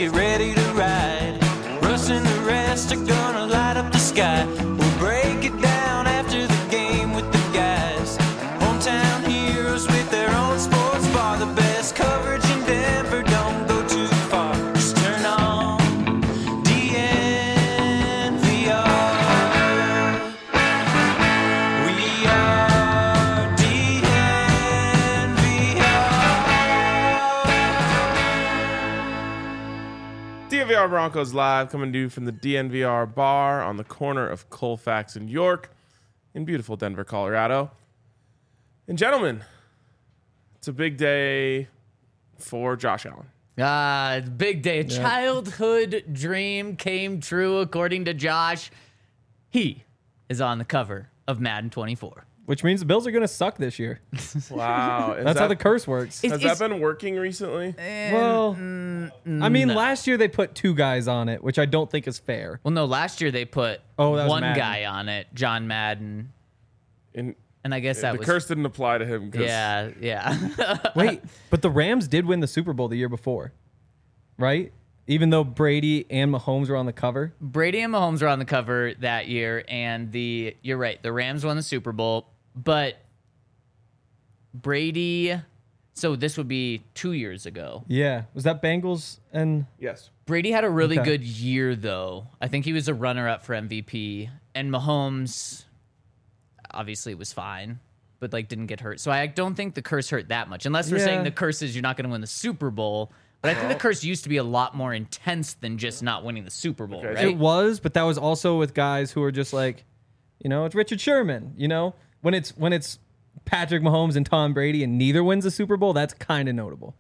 get ready to ride. Russ and the rest are gonna light up the sky. We'll break it down after the game with the guys. Hometown heroes with their own sports bar. The best coverage in Denver, don't go too far. Just turn on DNVR. We are DNVR. DNVR Broncos Live, coming to you from the DNVR bar on the corner of Colfax and York in beautiful Denver, Colorado. And gentlemen, it's a big day for Josh Allen. It's a big day. A childhood dream came true, according to Josh. He is on the cover of Madden 24. Which means the Bills are going to suck this year. Wow. That's how the curse works. Has that been working recently? Well, I mean, last year they put 2 guys on it, which I don't think is fair. Well, no, last year they put that was one Madden. guy on it, John Madden. And I guess that The was... curse didn't apply to him. Yeah. Wait, but the Rams did win the Super Bowl the year before, right? Even though Brady and Mahomes were on the cover. Brady and Mahomes were on the cover that year, and you're right, the Rams won the Super Bowl, but Brady... So this would be 2 years ago. Yeah. Was that Bengals and... Yes. Brady had a really Okay. good year, though. I think he was a runner-up for MVP. And Mahomes, obviously, was fine, but didn't get hurt. So I don't think the curse hurt that much. Unless we're Yeah. saying the curse is you're not going to win the Super Bowl. But I think the curse used to be a lot more intense than just not winning the Super Bowl, Okay. right? It was, but that was also with guys who were just like, it's Richard Sherman, When it's Patrick Mahomes and Tom Brady and neither wins the Super Bowl, that's kind of notable.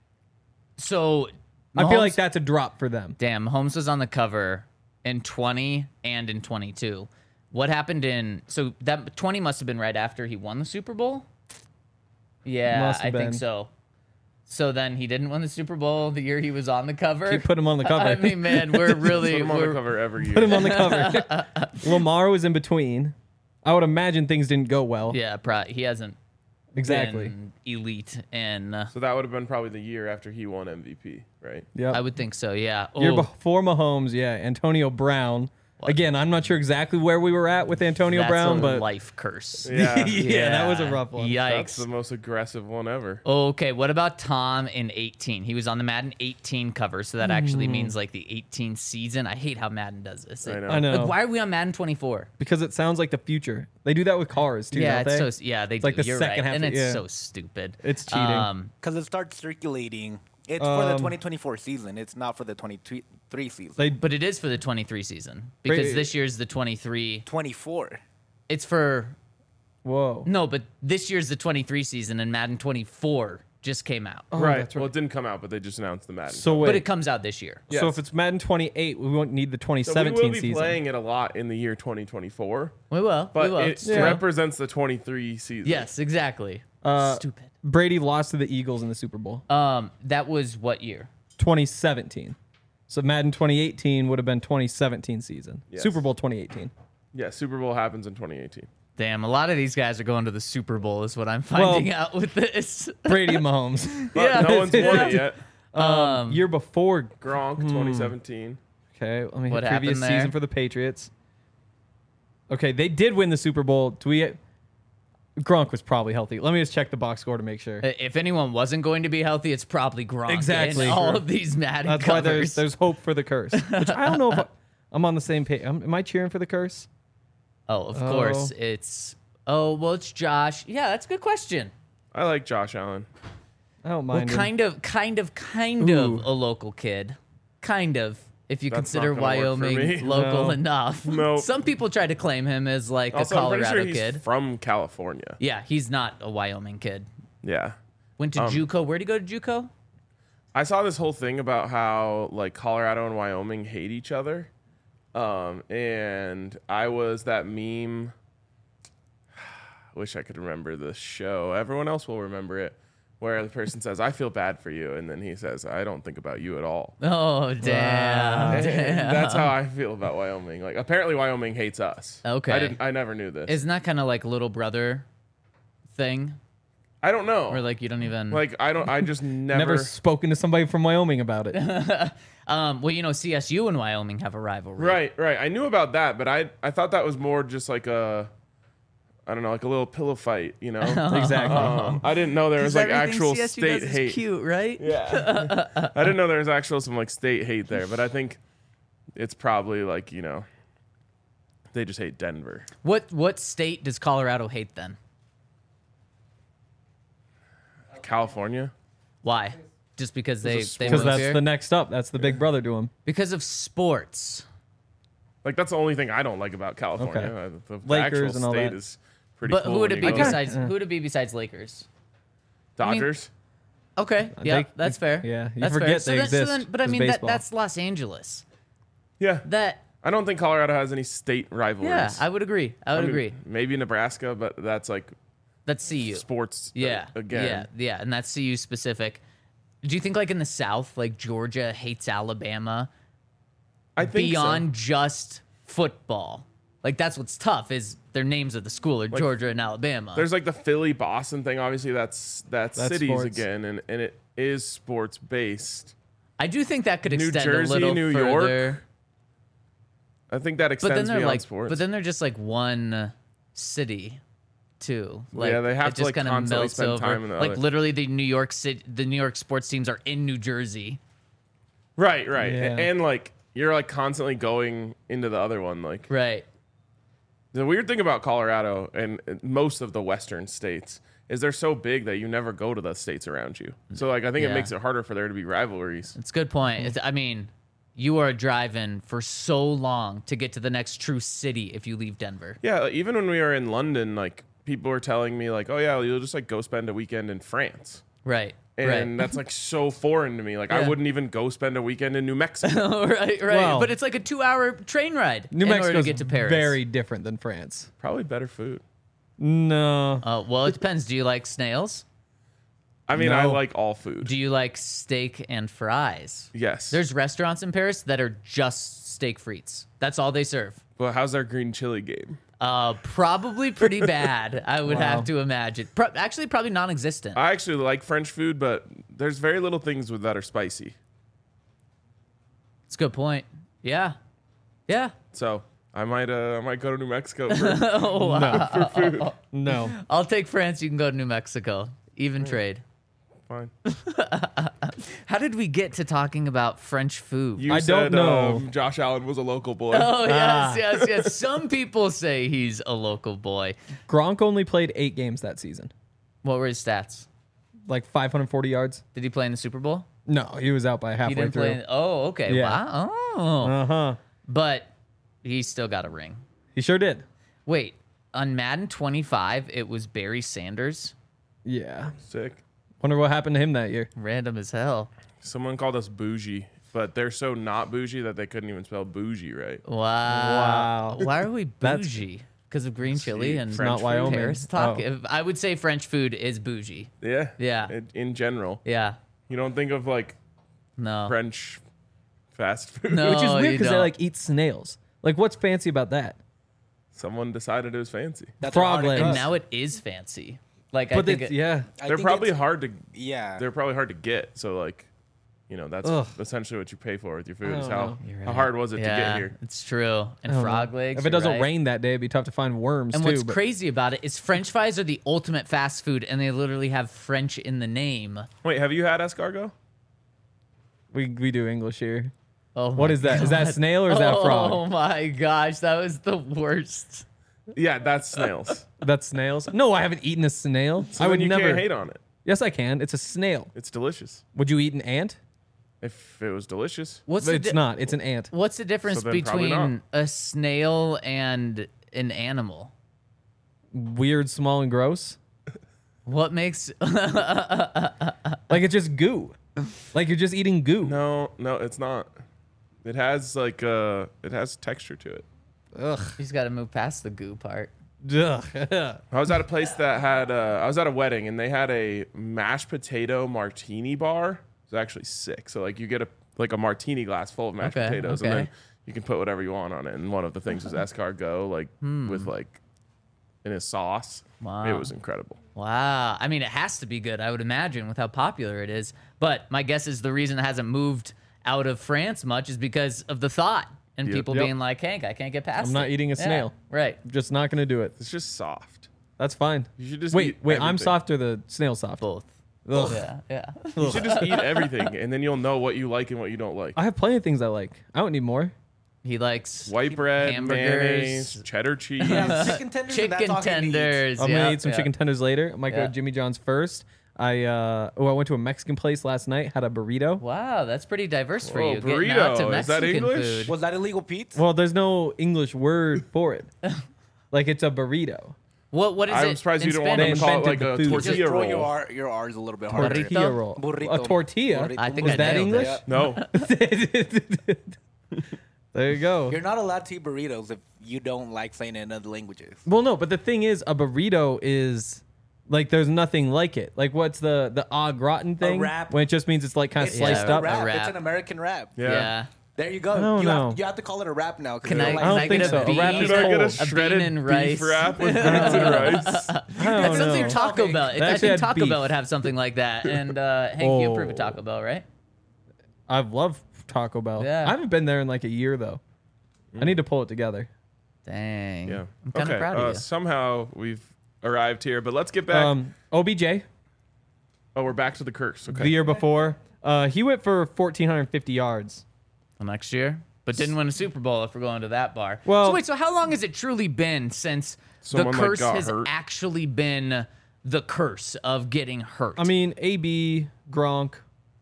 So I feel Mahomes- like that's a drop for them. Damn, Mahomes was on the cover in 20 and in 22. What happened so that 20 must have been right after he won the Super Bowl? Yeah, Must have I think been. so. So then he didn't win the Super Bowl the year he was on the cover. Keep putting him on the cover. I mean, man, we're really Put him on the cover every year. Put him on the cover. Lamar was in between. I would imagine things didn't go well. yeah, he hasn't Exactly. been elite, and So that would have been probably the year after he won MVP, right? Yeah. I would think so. Yeah. Year Oh, before Mahomes, Antonio Brown. Again, I'm not sure exactly where we were at with Antonio that's Brown, a but life curse. Yeah. yeah, that was a rough one. That's Yikes. the most aggressive one ever. Okay, what about Tom in 18? He was on the Madden 18 cover, so that actually means the 18 season. I hate how Madden does this. I know. I know. Why are we on Madden 24? Because it sounds like the future. They do that with cars too, Yeah, don't they? it's they do. like the You're second right, half and of- it's yeah. so stupid. It's cheating. Because it starts circulating. It's for the 2024 season. It's not for the 23 season. They But it is for the 23 season because Wait. this year's the 23. 24. It's for whoa. no, but this year's the 23 season, and Madden 24 just came out. right. that's right. Well, it didn't come out, but they just announced the Madden. So wait. But it comes out this year. So Yes. if it's Madden 28, we won't need the So we 2017 will be season. playing it a lot in the year 2024, We will. but we will. it Yeah. represents the 23 season. Yes, exactly. Uh, Stupid. Brady lost to the Eagles in the Super Bowl. That was what year? 2017. So Madden 2018 would have been 2017 season. Yes. Super Bowl 2018. Yeah, Super Bowl happens in 2018. Damn, a lot of these guys are going to the Super Bowl, is what I'm finding out with this. Brady and Mahomes. But Yeah. no one's won it yet. Year before. Gronk, 2017. Okay, let me What hit previous happened there? season for the Patriots. Okay, they did win the Super Bowl. Gronk was probably healthy. Let me just check the box score to make sure. If anyone wasn't going to be healthy, it's probably Gronk. Exactly. In all Sure. of these Madden That's why covers. there's hope for the curse. Which I don't know if I'm on the same page. Am I cheering for the curse? Of course, it's... Oh, well, it's Josh. Yeah, that's a good question. I like Josh Allen. I don't Well, mind. him. kind of Ooh. a local kid. Kind of. If you That's consider not gonna work for me. Wyoming local No. enough. Nope. Some people try to claim him as like Also, a I'm pretty Colorado sure he's kid. from California. Yeah, he's not a Wyoming kid. Yeah. Went to JUCO. Where'd he go to JUCO? I saw this whole thing about how like Colorado and Wyoming hate each other. And I was that meme. Wish I could remember the show. Everyone else will remember it. Where the person says, "I feel bad for you," and then he says, "I don't think about you at all." Oh, damn. And damn. that's how I feel about Wyoming. Like apparently Wyoming hates us. Okay. I never knew this. Isn't that kind of like little brother thing? I don't know. Or like you don't even Like I just Never spoken to somebody from Wyoming about it. well, you know, CSU and Wyoming have a rivalry. Right. I knew about that, but I thought that was more just like a, I don't know, like a little pillow fight, Exactly. I didn't know there was like actual CSU state does is hate. cute, right? Yeah. I didn't know there was actual some like state hate there, but I think it's probably like, they just hate Denver. What state does Colorado hate then? California? Why? Just because they Because move that's here? the next up. That's the big brother to him. Because of sports. Like that's the only thing I don't like about California. Okay. The Lakers actual and all state that. is pretty But cool. who would when it be you go there. besides who would it be besides Lakers? Dodgers? Okay, yeah, They- that's fair. yeah, you that's forget fair. they So exist but I as mean baseball. that's Los Angeles. Yeah. That I don't think Colorado has any state rivalries. yeah, I would agree. I would agree. Maybe Nebraska, but that's like That's CU. sports. Yeah. Again. Yeah, and that's CU specific. Do you think like in the South, like Georgia hates Alabama I think beyond so. just football? Like that's what's tough is their names of the school are Georgia and Alabama. There's like the Philly Boston thing. Obviously, that's cities sports. again, and it is sports based. I do think that could New extend Jersey, a little New further. York, I think that But extends then they're beyond like, sports. but then they're just like one city, too. Like, Yeah, they have it to, just like, kinda constantly melts spend over. time in the like other. literally, the New York sports teams are in New Jersey. right, Yeah. and like you're like constantly going into the other one. Like Right. the weird thing about Colorado and most of the Western states is they're so big that you never go to the states around you. So like I think Yeah. it makes it harder for there to be rivalries. It's a good point. I mean, you are driving for so long to get to the next true city if you leave Denver. Yeah, like, even when we were in London, like people were telling me like, oh yeah, you'll just like go spend a weekend in France. Right. And that's like so foreign to me. Like I Yeah. wouldn't even go spend a weekend in New Mexico. right. Well, but it's like a 2-hour train ride New in order Mexico's to get to Paris. very different than France. Probably better food. No. Well, it depends. Do you like snails? I mean, I No. like all food. Do you like steak and fries? Yes. There's restaurants in Paris that are just steak frites. That's all they serve. But how's their green chili game? Probably pretty bad, I would Wow. have to imagine. Actually, probably non-existent. I actually like French food, but there's very little things with that are spicy. It's a good point. Yeah. Yeah. So I might go to New Mexico for, Oh, for food. No. I'll take France. You can go to New Mexico. Even trade. Fine. How did we get to talking about French food? You I don't said, know. Josh Allen was a local boy. Oh, yes. Some people say he's a local boy. Gronk only played 8 games that season. What were his stats? Like 540 yards. Did he play in the Super Bowl? No, he was out by He halfway didn't through. play. Oh, okay. Yeah. Wow. Oh. Uh-huh. But he still got a ring. He sure did. Wait, on Madden 25, it was Barry Sanders. Yeah. Sick. Wonder what happened to him that year. Random as hell. Someone called us bougie, but they're so not bougie that they couldn't even spell bougie right. Wow. Wow. Why are we That's- bougie? Because of green chili and French Not food. Wyoming. Paris talk? Oh. I would say French food is bougie. Yeah. Yeah. In general, Yeah. you don't think of like No. French fast food. No. Which is Oh, weird you because they don't. like eat snails. Like, what's fancy about that? Someone decided it was fancy. That's Frog hard to legs. And cook. now it is fancy. Like, I But think it's, it, yeah. I They're think probably it's- hard to. Yeah. They're probably hard to get. So like, that's Ugh. essentially what you pay for with your food. I Is don't how know. You're how right. hard was it to yeah, get here? It's true. And I don't frog know. legs. If it you're doesn't right. rain that day, it'd be tough to find worms And too. what's but- crazy about it is French fries are the ultimate fast food, and they literally have French in the name. Wait, have you had escargot? We do English here. Oh, What my is that? Is that God. snail or is that Oh frog? my gosh, that was the worst. Yeah, that's snails. That's snails. No, I haven't eaten a snail. So I would then you never. can't hate on it. Yes, I can. It's a snail. It's delicious. Would you eat an ant? If it was delicious. What's But the it's di- not. It's an ant. What's the difference So then probably between not. a snail and an animal? Weird, small, and gross. What makes Like it's just goo. Like you're just eating goo. No, it's not. It has like it has texture to it. Ugh. he's got to move past the goo part? Ugh. I was at a place that had I was at a wedding and they had a mashed potato martini bar. It was actually sick. So like you get a martini glass full of mashed Okay, potatoes okay. and then you can put whatever you want on it. And one of the things was escargot, like with like in his sauce. Wow. It was incredible. Wow. I mean, it has to be good, I would imagine, with how popular it is. But my guess is the reason it hasn't moved out of France much is because of the thought and Yep. people being like, Hank, I can't get past I'm not eating a Yeah, snail. Right. Just not gonna do it. It's just soft. That's fine. You should just Wait, eat I'm everything. soft or the snail soft? Both. Ugh. Yeah. You should just eat everything, and then you'll know what you like and what you don't like. I have plenty of things I like. I don't need more. He likes White bread, hamburgers. mayonnaise, cheddar cheese. Yeah, chicken tenders. and that's chicken all he needs. tenders. I'm gonna eat some chicken tenders later. I might go Yeah. to Jimmy John's first. I went to a Mexican place last night. Had a burrito. Wow, that's pretty diverse for Whoa, you. Getting out to burrito. Is that Mexican English? food. Was that illegal, Pete? Well, there's no English word for it. Like it's a burrito. What is it? I'm surprised in you don't want them Spanish? to call it like invented a the food. Just tortilla throw roll. your R's a little bit harder. Burrito? Tortilla roll. Burrito. A tortilla. Burrito. I think Was I that nailed English? it. No, There you go. You're not allowed to eat burritos if you don't like saying it in other languages. Well, no, but the thing is, a burrito is like there's nothing like it. Like what's the au gratin thing? wrap. When it just means it's like kind of It's sliced a up. wrap. A wrap. It's an American wrap. yeah. Yeah. There you go. I don't you, know. Have, you have to call it a wrap now. 'cause Can they I, don't can don't I think get so. a A bean? wrap Should is I get a cold. shredded bean and beef rice. wrap with beans and rice? I That's don't something know. Taco Bell. They I actually think had Taco beef. Bell would have something like that. And Hank, you approve of Taco Bell, right? I've loved Taco Bell. Yeah. I haven't been there in like a year though. I need to pull it together. Dang. Yeah. I'm kind of proud of you. Somehow we've arrived here, but let's get back. OBJ, We're back to the curse. Okay. the year before, he went for 1,450 yards. Well, next year, but didn't win a Super Bowl if we're going to that bar. Well- so wait, so how long has it truly been since the Someone, like, curse got has hurt? actually been the curse of getting hurt? I mean, AB, Gronk.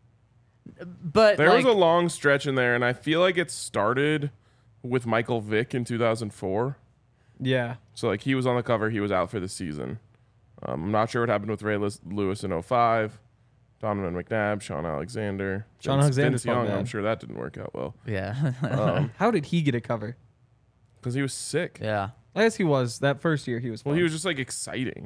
but There like, was a long stretch in there, and I feel like it started with Michael Vick in 2004. Yeah. So like he was on the cover, he was out for the season. I'm not sure what happened with Ray Lewis in 05. Donovan McNabb, Sean Alexander, Sean Vince Alexander's Young. bad. I'm sure that didn't work out well yeah, How did he get a cover? because he was sick. yeah. I guess he was. That first year he was. Well, fun. he was just like exciting.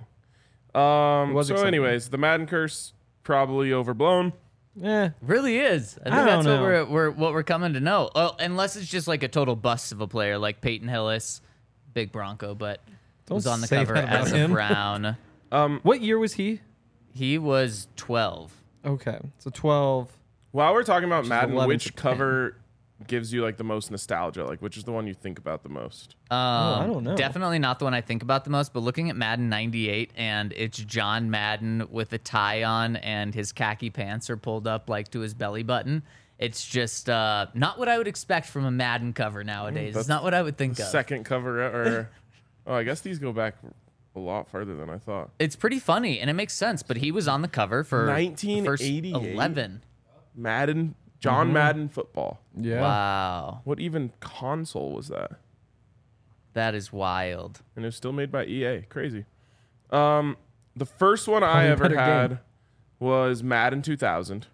was So, exciting. anyways, the Madden curse probably overblown. Eh. Really is. I think I that's don't what we're coming to know. Well, unless it's just like a total bust of a player like Peyton Hillis, big Bronco, but Don't was on the say cover that about as a him. Brown. What year was he? He was 12. Okay, so 12. While we're talking about Madden, 11 which to 10. cover gives you like the most nostalgia? Like, which is the one you think about the most? I don't know. Definitely not the one I think about the most, but looking at Madden 98 and it's John Madden with a tie on and his khaki pants are pulled up like to his belly button. It's just not what I would expect from a Madden cover nowadays. that's It's not what I would think of. Second cover, or oh, I guess these go back a lot farther than I thought. It's pretty funny and it makes sense, but he was on the cover for the first 1988? 11. Madden, John Madden football. Yeah. Wow. What even console was that? That is wild. And it was still made by EA. Crazy. The first one I Probably a ever better had game. was Madden 2000.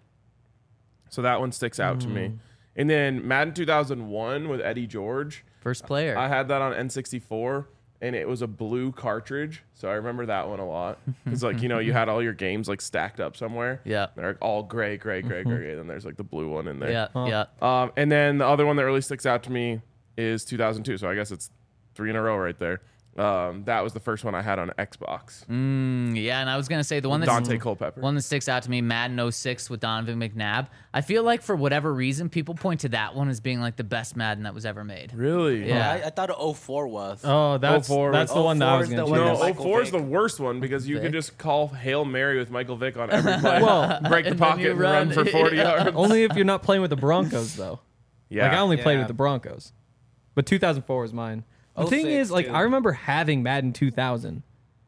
So that one sticks out to me. And then Madden 2001 with Eddie George. First player. I had that on N64, and it was a blue cartridge. So I remember that one a lot. Because, like, you know, you had all your games, like, stacked up somewhere. Yeah. They're like, all gray, gray. And then there's, like, the blue one in there. yeah, yeah. And then the other one that really sticks out to me is 2002. So I guess it's 3 in a row right there. That was the first one I had on Xbox. Yeah, and I was gonna say the one that Dante Culpepper. one that sticks out to me, Madden 06 with Donovan McNabb. I feel like for whatever reason, people point to that one as being like the best Madden that was ever made. Really? Yeah. I thought 04 was. Oh, that's 04 that's the was- one that I was 04 is going the to one choose. that No, Michael 04 is the Vick. worst one because you Vick. could just call Hail Mary with Michael Vick on every play. Well, break the and then pocket you and run run. for 40 Yeah. yards. Only if you're not playing with the Broncos, though. Yeah. Like I only played Yeah. with the Broncos, but 2004 was mine. The thing 06 is, like, too. I remember having Madden 2000,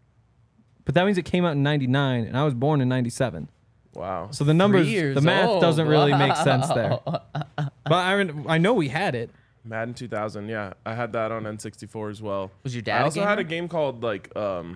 but that means it came out in '99, and I was born in '97. Wow. So the numbers, years the math old. doesn't really make sense there. But I know we had it. Madden 2000, yeah. I had that on N64 as well. Was your dad I a also had a gamer? game called, like,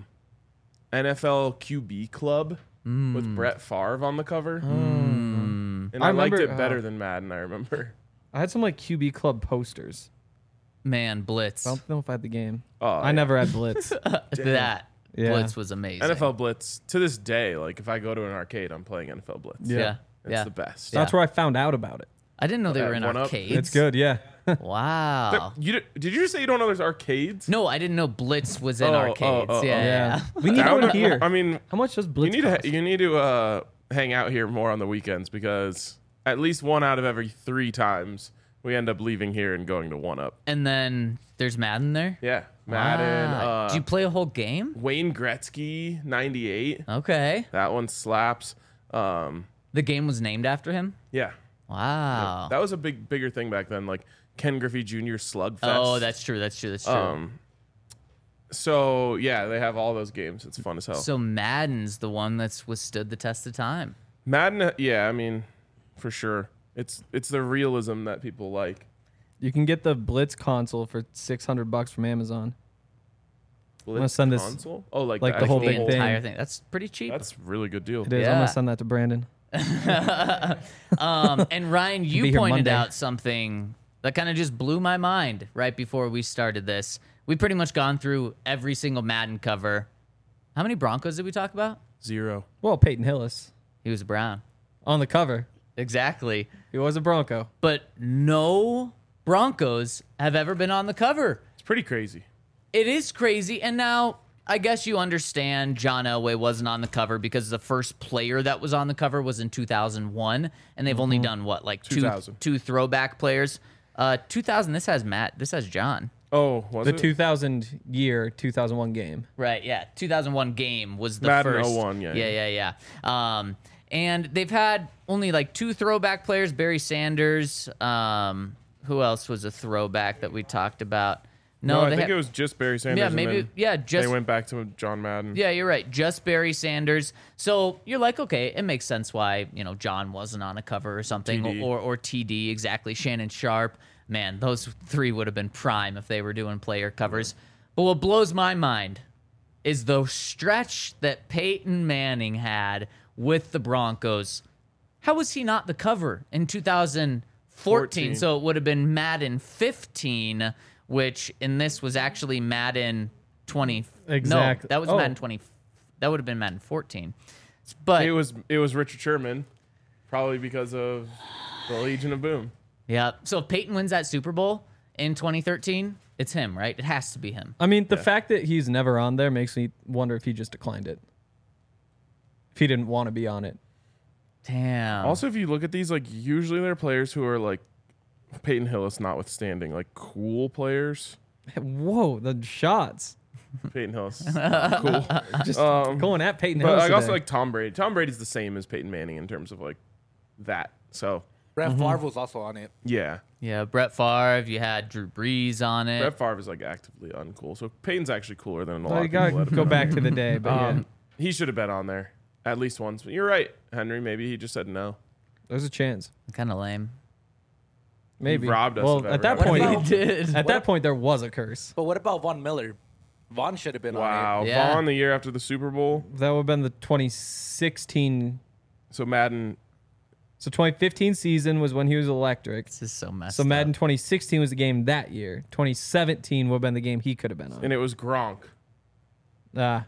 NFL QB Club with Brett Favre on the cover. And I, I liked remember- it better than Madden, I remember. I had some like QB Club posters. Man, Blitz. I don't know if I had the game. Oh, I yeah. never had Blitz. That Yeah. Blitz was amazing. NFL Blitz, to this day, like, if I go to an arcade, I'm playing NFL Blitz. Yeah. It's Yeah. the best. That's where I found out about it. I didn't know they were in One Up. arcades. It's good, yeah. Wow. Did you just say you don't know there's arcades? No, I didn't know Blitz was in arcades. oh, yeah. We need one here. I mean, How much does you Blitz need cost? to hang out here more on the weekends because at least 1 out of every 3 times we end up leaving here and going to 1UP. And then there's Madden there. Yeah, Madden. Wow. Do you play a whole game? Wayne Gretzky 98. Okay. That one slaps. The game was named after him. Yeah, Wow. that was a bigger thing back then. Like Ken Griffey Jr. Slugfest. Oh, that's true. That's true. That's true. So yeah, they have all those games. It's fun as hell. So Madden's the one that's withstood the test of time. Madden, yeah, I mean, for sure. It's the realism that people like. You can get the Blitz console for $600 from Amazon. Blitz send this- console? Oh, like the whole The big thing. entire thing. That's pretty cheap. That's a really good deal. It is. I'm Yeah. gonna send that to Brandon. And Ryan, Be you here pointed Monday. out something that kind of just blew my mind right before we started this. We pretty much gone through every single Madden cover. How many Broncos did we talk about? 0. Well, Peyton Hillis He was a Brown. on the cover. Exactly. He was a Bronco. But no Broncos have ever been on the cover. It's pretty crazy. It is crazy. And now I guess you understand John Elway wasn't on the cover because the first player that was on the cover was in 2001. And they've only done what, like 2000. two throwback players? 2000, this has Matt. This has John. Oh, was The it? 2001 game. Right, yeah. 2001 game was the Madden first. 01, yeah. And they've had only like 2 throwback players, Barry Sanders. Who else was a throwback that we talked about? No, I they think had- it was just Barry Sanders. Yeah, and maybe. then Yeah, just. they went back to John Madden. Yeah, you're right. Just Barry Sanders. So you're like, okay, it makes sense why John wasn't on a cover or something, TD. or TD exactly. Shannon Sharp. Man, those 3 would have been prime if they were doing player covers. But what blows my mind is the stretch that Peyton Manning had with the Broncos. How was he not the cover in 2014? 14. So it would have been Madden 15, which in this was actually Madden 20. Exactly. No, that was Oh. Madden 20. That would have been Madden 14. But It was Richard Sherman, probably because of the Legion of Boom. yeah, so if Peyton wins that Super Bowl in 2013, it's him, right? It has to be him. I mean, the fact that he's never on there makes me wonder if he just declined it. If he didn't want to be on it. Damn. Also, if you look at these, like usually they're players who are like Peyton Hillis, notwithstanding, like cool players. Whoa, the shots. Peyton Hillis, cool. Just going at Peyton But Hillis. like also today. like Tom Brady. Tom Brady's the same as Peyton Manning in terms of like that. So Brett Favre was also on it. yeah, Yeah, Brett Favre. You had Drew Brees on it. Brett Favre is like actively uncool. So Peyton's actually cooler than a lot Well, you of people. gotta let him go know. back to the day, but yeah, He should have been on there at least once. But you're right, Henry. Maybe he just said no. there's a chance. Kind of lame. Maybe robbed us Well, of at that every point, opportunity. He did. at that point, there was a curse. But what about Von Miller? Von should have been on Wow, Yeah. Vaughn the year after the Super Bowl. That would have been the 2016. So Madden. So 2015 season was when he was electric. This is so messed So up. Madden 2016 was the game that year. 2017 would have been the game he could have been on. And it was Gronk. Ah,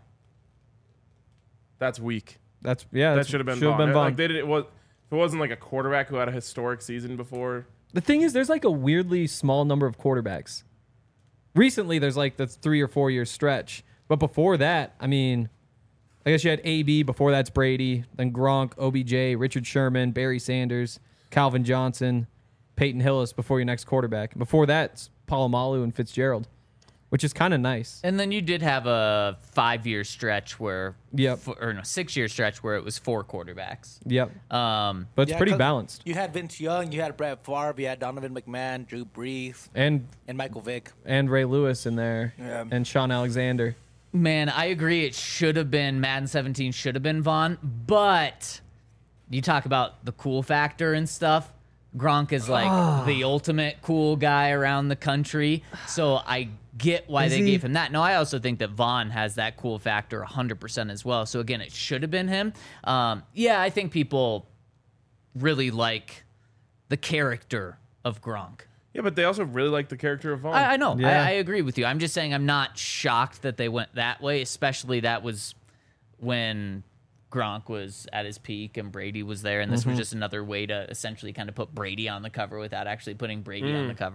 That's weak. that Should have been Should have Vaughn. been Vaughn. Like they did it was. If it wasn't like a quarterback who had a historic season before. The thing is, there's like a weirdly small number of quarterbacks. Recently, there's like the 3 or 4 year stretch. But before that, I mean, I guess you had AB. Before that's Brady. Then Gronk, OBJ, Richard Sherman, Barry Sanders, Calvin Johnson, Peyton Hillis before your next quarterback. Before that, it's Palomalu and Fitzgerald, which is kind of nice. And then you did have a 5-year stretch where, Yep. or no, 6-year stretch where it was 4 quarterbacks. Yep. Um, But it's Yeah, pretty 'cause balanced. You had Vince Young, you had Brett Favre, you had Donovan McMahon, Drew Brees, And Michael Vick. Ray Lewis in there. Yeah. And Sean Alexander. Man, I agree. It should have been Madden 17. Should have been Vaughn. But you talk about the cool factor and stuff. Gronk is like the ultimate cool guy around the country. So I get why Is they he? gave him that. No, I also think that Vaughn has that cool factor 100% as well. So again, it should have been him. Yeah, I think people really like the character of Gronk. Yeah, but they also really like the character of Vaughn. I know. Yeah. I agree with you. I'm just saying I'm not shocked that they went that way, especially that was when Gronk was at his peak and Brady was there, and this was just another way to essentially kind of put Brady on the cover without actually putting Brady on the cover.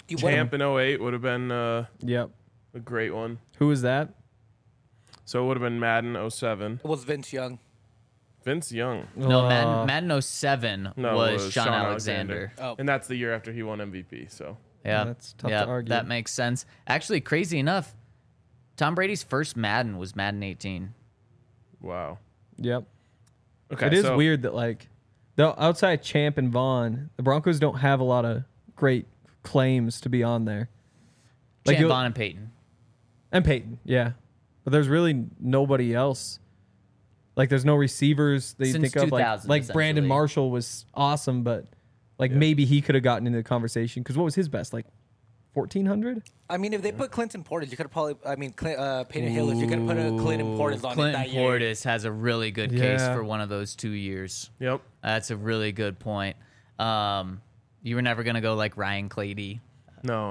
Champ in 08 would have been Yep. a great one. Who was that? So it would have been Madden 07. It was Vince Young. Vince Young. No, Madden 07 No, was it was Sean Alexander. Oh. And that's the year after he won MVP. So Yeah, That's tough yeah, to argue. That makes sense. Actually, crazy enough, Tom Brady's first Madden was Madden 18. wow. Yep. Okay, It is so weird that like the outside Champ and Vaughn, the Broncos don't have a lot of great claims to be on there. Champ, you'll- Vaughn, and Peyton. And Peyton, yeah. But there's really nobody else. Like there's no receivers that you Since think of. 2000, Like Brandon essentially. Marshall was awesome, but like maybe he could have gotten into the conversation because what was his best? Like 1,400? I mean, if they put Clinton Portis, you could have probably. I mean, Peyton Hillis, you could have put a Clinton Portis on it Clinton that year. Portis has a really good case Yeah. for one of those 2 years. Yep. That's a really good point. You were never gonna go like Ryan Clady. No.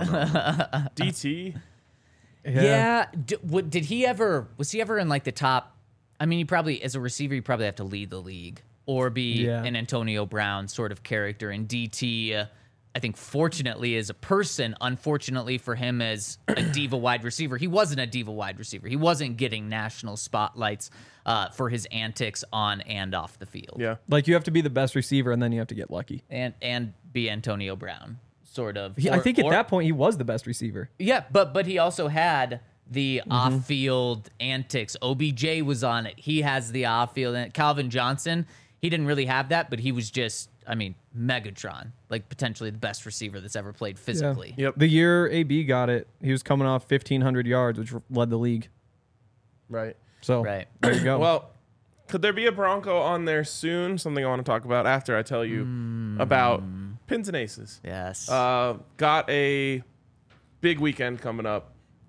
DT. Yeah. Did he ever? Was he ever in like the top? I mean, he probably as a receiver, you probably have to lead the league or be Yeah. an Antonio Brown sort of character. And DT, I think, fortunately, as a person, unfortunately for him as a diva wide receiver, he wasn't a diva wide receiver. He wasn't getting national spotlights for his antics on and off the field. Yeah. Like you have to be the best receiver and then you have to get lucky. And be Antonio Brown, sort of. I Or- think at or- that point he was the best receiver. Yeah, but he also had the off-field antics. OBJ was on it. He has the off-field. And Calvin Johnson, he didn't really have that, but he was just, I mean, Megatron, like potentially the best receiver that's ever played physically. Yep. The year AB got it, he was coming off 1,500 yards, which led the league. Right. So Right. there you go. Well, could there be a Bronco on there soon? Something I want to talk about after I tell you about Pins and Aces. Yes. Got a big weekend coming up.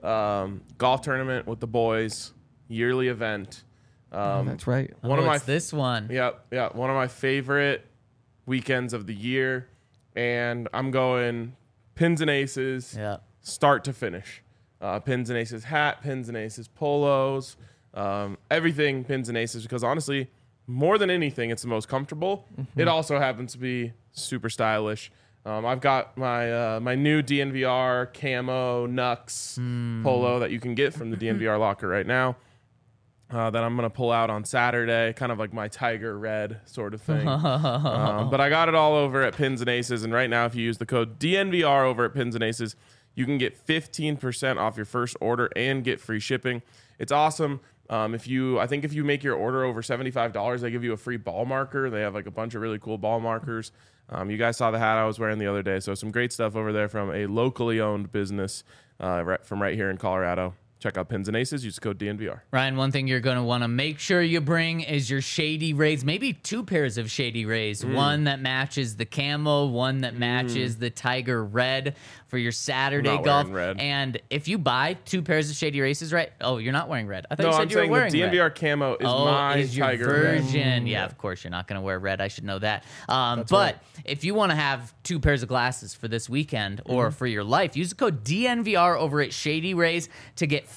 Golf tournament with the boys, yearly event. That's right. One of my this one. yeah, one of my favorite weekends of the year, and I'm going Pins and Aces, Yeah. start to finish. Pins and Aces hat, Pins and Aces polos, everything Pins and Aces, because honestly, more than anything, it's the most comfortable. It also happens to be super stylish. I've got my my new DNVR camo Nux polo that you can get from the DNVR locker right now. That I'm gonna pull out on Saturday, kind of like my tiger red sort of thing. But I got it all over at Pins and Aces, and right now, if you use the code DNVR over at Pins and Aces, you can get 15% off your first order and get free shipping. It's awesome. If you make your order over $75, they give you a free ball marker. They have like a bunch of really cool ball markers. You guys saw the hat I was wearing the other day, so some great stuff over there from a locally owned business from right here in Colorado. Check out Pins and Aces. Use the code DNVR. Ryan, one thing you're going to want to make sure you bring is your Shady Rays, maybe 2 pairs of Shady Rays, one that matches the camo, one that matches the tiger red for your Saturday Not golf. wearing red. And if you buy 2 pairs of Shady Races, right? Oh, you're not wearing red. I thought No, you said I'm you were saying the wearing DNVR red. camo is my is your tiger red. version. Yeah, of course, you're not going to wear red. I should know that. But if you want to have 2 pairs of glasses for this weekend or for your life, use the code DNVR over at Shady Rays to get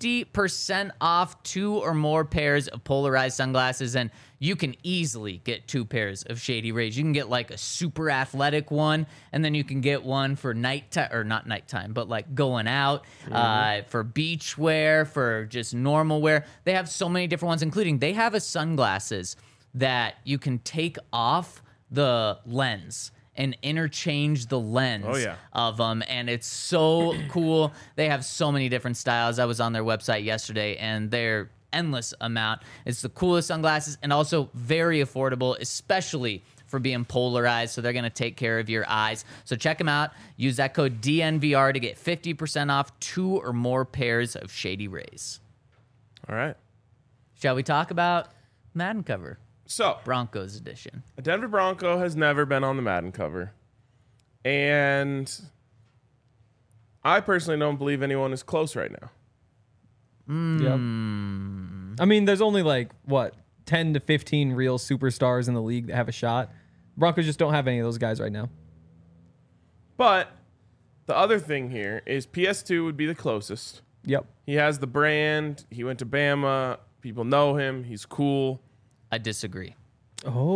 50% off 2 or more pairs of polarized sunglasses. And you can easily get 2 pairs of Shady Rays. You can get like a super athletic one, and then you can get one for nighttime, or not nighttime, but like going out, for beach wear, for just normal wear. They have so many different ones, including they have a sunglasses that you can take off the lens and interchange the lens Oh, yeah. of them, and it's so cool. They have so many different styles. I was on their website yesterday, and they're endless amount. It's the coolest sunglasses and also very affordable, especially for being polarized. So they're going to take care of your eyes. So check them out. Use that code DNVR to get 50% off 2 or more pairs of Shady Rays. All right. Shall we talk about Madden cover? So, Broncos edition. a Denver Bronco has never been on the Madden cover. And I personally don't believe anyone is close right now. Yep. I mean, there's only like, what, 10 to 15 real superstars in the league that have a shot. Broncos just don't have any of those guys right now. But the other thing here is PS2 would be the closest. Yep. He has the brand. He went to Bama. People know him. He's cool. I disagree.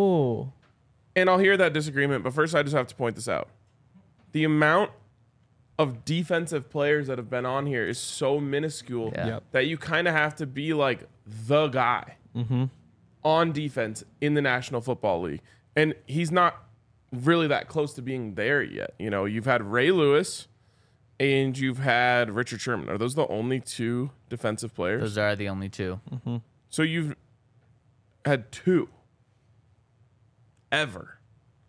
Oh. And I'll hear that disagreement, but first I just have to point this out. The amount of defensive players that have been on here is so minuscule Yeah. Yep. that you kind of have to be like the guy on defense in the National Football League. And he's not really that close to being there yet. You know, you've had Ray Lewis and you've had Richard Sherman. Are those the only two defensive players? Those are the only two. So you've had two ever.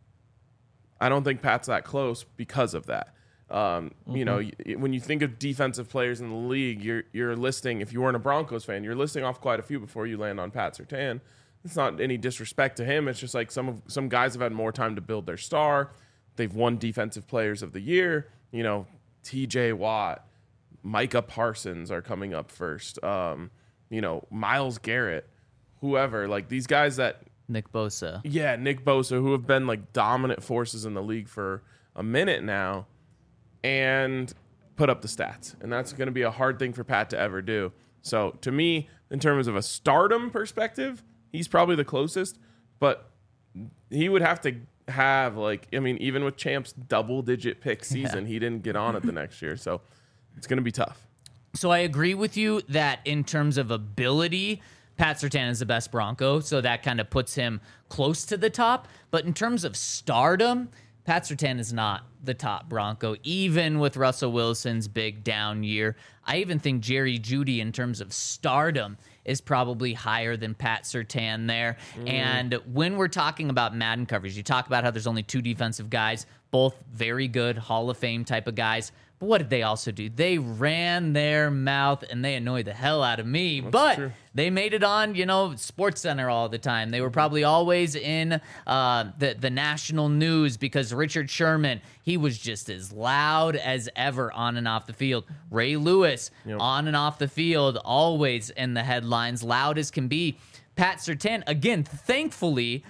I don't think Pat's that close because of that. You know, when you think of defensive players in the league, you're listing, if you weren't a Broncos fan, you're listing off quite a few before you land on Pat Surtain. It's not any disrespect to him. It's just like some guys have had more time to build their star. They've won Defensive Players of the Year. You know, TJ Watt, Micah Parsons are coming up first. You know, Myles Garrett, whoever. Like these guys that, Nick Bosa. yeah, Nick Bosa, who have been like dominant forces in the league for a minute now and put up the stats. And that's going to be a hard thing for Pat to ever do. So to me, in terms of a stardom perspective, he's probably the closest, but he would have to have like, I mean, even with Champ's double-digit pick season, he didn't get on it the next year. So it's going to be tough. So I agree with you that in terms of ability, Pat Surtain is the best Bronco, so that kind of puts him close to the top. But in terms of stardom, Pat Surtain is not the top Bronco, even with Russell Wilson's big down year. I even think Jerry Jeudy, in terms of stardom, is probably higher than Pat Surtain there. And when we're talking about Madden coverage, you talk about how there's only two defensive guys, both very good Hall of Fame type of guys. But what did they also do? They ran their mouth and they annoyed the hell out of me. But true. they made it on, you know, Sports Center all the time. They were probably always in the national news because Richard Sherman, he was just as loud as ever on and off the field. Ray Lewis, on and off the field, always in the headlines, loud as can be. Pat Surtain, again, thankfully,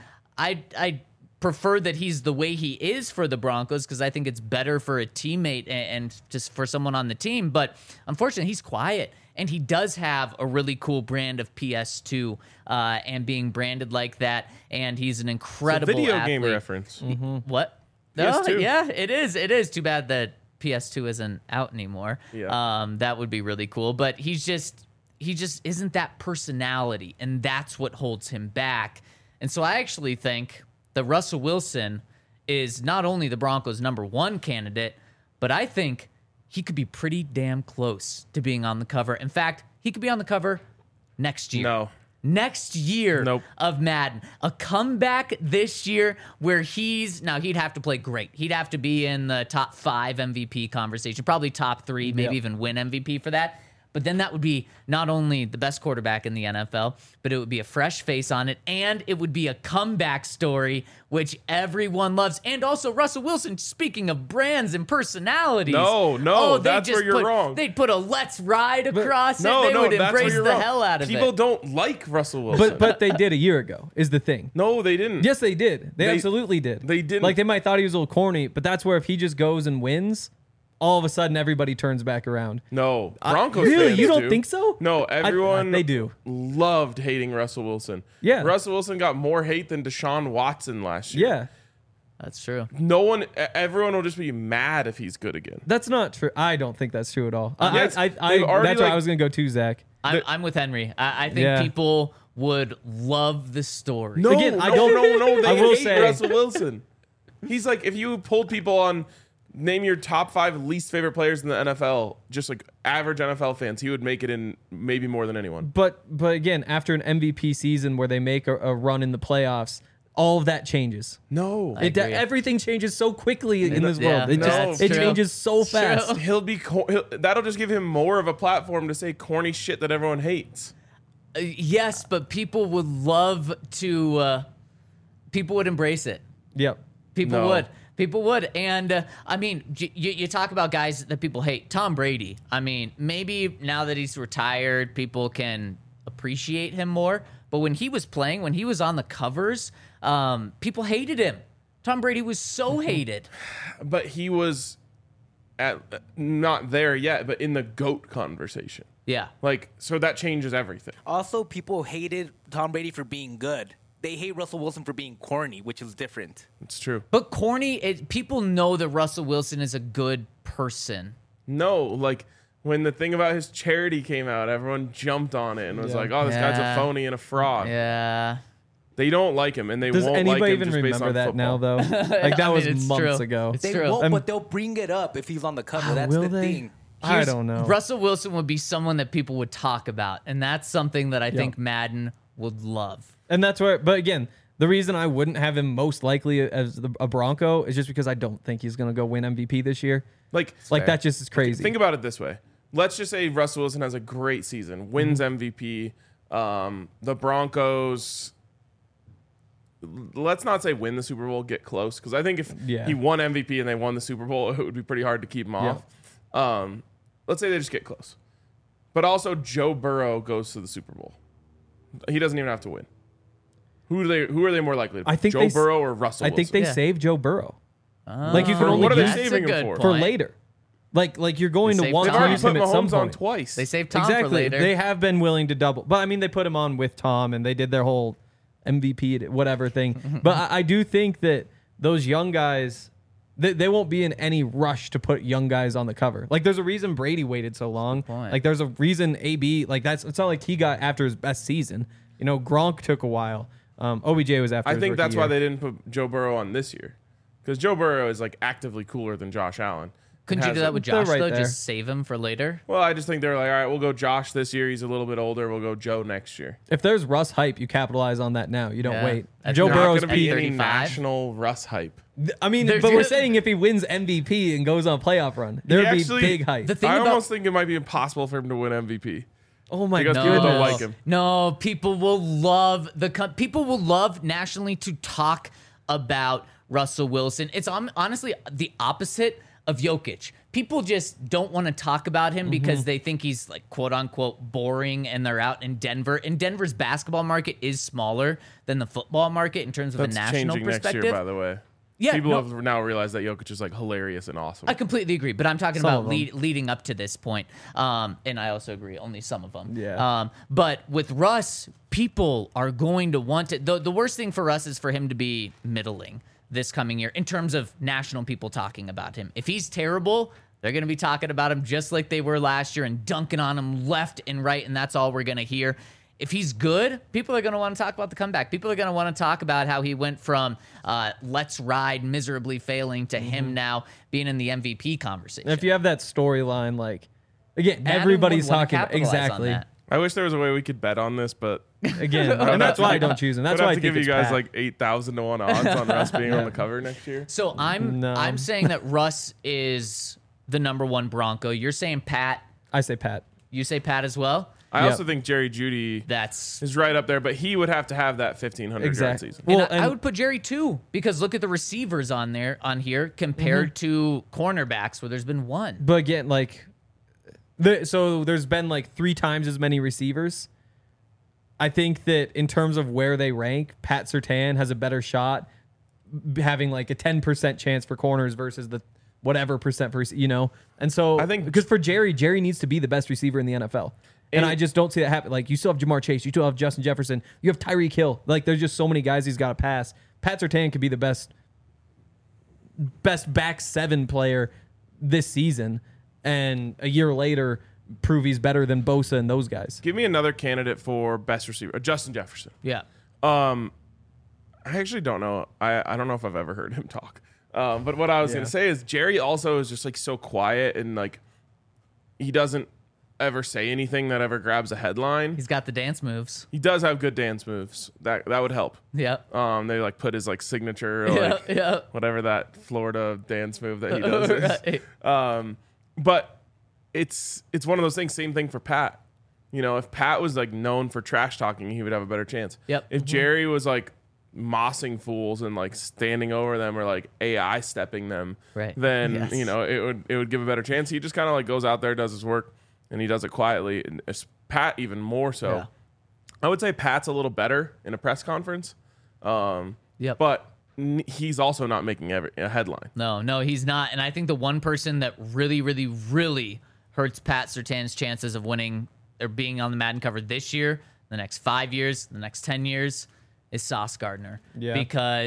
I prefer that he's the way he is for the Broncos because I think it's better for a teammate and just for someone on the team. But unfortunately, he's quiet. And he does have a really cool brand of PS2 and being branded like that. And he's an incredible Video athlete. game reference. What? PS2. Oh, yeah, it is. It is. Too bad that PS2 isn't out anymore. Yeah. That would be really cool. But he just isn't that personality. And that's what holds him back. And so I actually think that Russell Wilson is not only the Broncos' #1 candidate, but I think he could be pretty damn close to being on the cover. In fact, he could be on the cover next year. No. Next year Nope. of Madden. A comeback this year where he'd have to play great. He'd have to be in the top 5 MVP conversation, probably top 3, maybe even win MVP for that. But then that would be not only the best quarterback in the NFL, but it would be a fresh face on it, and it would be a comeback story, which everyone loves. And also Russell Wilson, speaking of brands and personalities. No, that's where you're wrong. They'd put a "Let's Ride" across it. No, They would that's where embrace you're the wrong. hell out of People it. don't like Russell Wilson. But they did a year ago is the thing. no, they didn't. Yes, they did. They They- absolutely did. they didn't. Like they might thought he was a little corny, but that's where if he just goes and wins, all of a sudden everybody turns back around. No, Broncos Really? fans You don't do. think so? No, everyone they do. loved hating Russell Wilson. Yeah. Russell Wilson got more hate than Deshaun Watson last year. Yeah. That's true. Everyone will just be mad if he's good again. That's not true. I don't think that's true at all. Yes, I they've already, that's where like- I was going to go to, Zach. I'm with Henry. I think Yeah. people would love the story. No, Again, no, I don't- no. They I will hate say- Russell Wilson. He's like, if you pulled people on, name your top 5 least favorite players in the NFL, just like average NFL fans, he would make it in maybe more than anyone. But again, after an MVP season where they make a run in the playoffs, all of that changes. No, agree. Everything changes so quickly in this Yeah, world. It no, just it's it true. changes so It's true. fast. that'll just give him more of a platform to say corny shit that everyone hates. Yes, but people would love to. People would embrace it. Yep. People No. would. People would. And I mean, you talk about guys that people hate. Tom Brady. I mean, maybe now that he's retired, people can appreciate him more. But when he was playing, when he was on the covers, people hated him. Tom Brady was so hated. But he was not there yet, but in the GOAT conversation. Yeah. Like, so that changes everything. Also, people hated Tom Brady for being good. They hate Russell Wilson for being corny, which is different. It's true. But corny, people know that Russell Wilson is a good person. No, like when the thing about his charity came out, everyone jumped on it and was Yeah. like, "Oh, this guy's a Yeah. phony and a fraud." Yeah. They don't like him, and they Does won't anybody like him even just based remember on that football. now, though? Like, that I mean, was it's months true. ago. It's They true. won't, but they'll bring it up if he's on the cover. That's will the they? thing. I don't know. Russell Wilson would be someone that people would talk about, and that's something that I think Madden would love. And that's where, but again, the reason I wouldn't have him most likely as a Bronco is just because I don't think he's going to go win MVP this year. Like, Like, that just is crazy. think about it this way. Let's just say Russell Wilson has a great season, wins MVP. The Broncos, let's not say win the Super Bowl, get close, because I think if Yeah. he won MVP and they won the Super Bowl, it would be pretty hard to keep him off. Let's say they just get close. But also Joe Burrow goes to the Super Bowl. He doesn't even have to win. Who are they more likely to I think Joe they Burrow or Russell I think Wilson? they Yeah. saved Joe Burrow. Like, you can For only what are they use saving him good for? for point. later. Like you're going They to saved want They've Tom. to already use put him at some Mahomes on point. twice. They saved Tom for Exactly. later. They have been willing to double. But I mean, they put him on with Tom and they did their whole MVP, whatever thing. But I do think that those young guys, they won't be in any rush to put young guys on the cover. Like, there's a reason Brady waited so long. point. Like, there's a reason AB, like, it's not like he got after his best season. You know, Gronk took a while. OBJ was after I his think rookie that's year. why they didn't put Joe Burrow on this year, because Joe Burrow is like actively cooler than Josh Allen. Couldn't you do that with They're Josh, right though? there. Just save him for later? Well, I just think they're like, all right, we'll go Josh this year. He's a little bit older. We'll go Joe next year. If there's Russ hype, you capitalize on that now. You don't Yeah. wait. At Joe thirty- Not Burrow's going to be at any 35? national Russ hype. I mean, There's but we're gonna- saying if he wins MVP and goes on a playoff run, there would be actually- big hype. The thing I about almost think it might be impossible for him to win MVP. Oh my Because god! people don't like him. No, people will love people will love nationally to talk about Russell Wilson. It's honestly the opposite of Jokic. People just don't want to talk about him because they think he's like quote unquote boring and they're out in Denver. And Denver's basketball market is smaller than the football market in terms of That's a national changing perspective. next year, by the way. Yeah, People no. have now realized that Jokic is like hilarious and awesome. I completely agree, but I'm talking Some about of 'em. leading up to this point. And I also agree, only some of them. Yeah. But with Russ, people are going to want to. The worst thing for Russ is for him to be middling this coming year in terms of national people talking about him. If he's terrible, they're going to be talking about him just like they were last year and dunking on him left and right, and that's all we're going to hear. If he's good, people are going to want to talk about the comeback. People are going to want to talk about how he went from let's ride miserably failing to him now being in the MVP conversation. If you have that storyline, like, again, Madden everybody's would wanna talking capitalize on exactly. that. I wish there was a way we could bet on this, but Again, and that's why I don't choose him. That's I'd why I have to think give you it's guys Pat. like 8,000 to 1 odds on Russ being on the cover next year. So I'm No. saying that Russ is the number one Bronco. You're saying Pat. I say Pat. You say Pat as well. I Yep. also think Jerry Judy That's is right up there, but he would have to have that 1,500 Exactly. yard season. Well, and I and- would put Jerry too because look at the receivers on here compared to cornerbacks where there's been one. But again, like, so there's been like 3 times as many receivers. I think that in terms of where they rank, Pat Surtain has a better shot having like a 10% chance for corners versus the whatever percent for, you know? And so I think- because for Jerry needs to be the best receiver in the NFL. And I just don't see that happen. Like, you still have Jamar Chase, you still have Justin Jefferson, you have Tyreek Hill. Like, there's just so many guys he's got to pass. Pat Surtain could be the best back 7 player this season, and a year later prove he's better than Bosa and those guys. Give me another candidate for best receiver, Justin Jefferson. Yeah. I actually don't know. I don't know if I've ever heard him talk. But what I was going to say is Jerry also is just like so quiet and like he doesn't ever say anything that ever grabs a headline. He's got the dance moves. He does have good dance moves. That would help. Yep. They like put his like signature or like yeah. whatever that Florida dance move that he does is. Right. But it's one of those things. Same thing for Pat. You know, if Pat was like known for trash talking, he would have a better chance. Yep. If Jerry was like mossing fools and like standing over them or like AI stepping them, Right. then Yes. you know it would give a better chance. He just kind of like goes out there, does his work, and he does it quietly. And Pat even more so. Yeah. I would say Pat's a little better in a press conference. Yep. But he's also not making a headline. No, he's not. And I think the one person that really, really, really hurts Pat Surtain's chances of winning or being on the Madden cover this year, the next 5 years, the next 10 years, is Sauce Gardner. Yeah. Because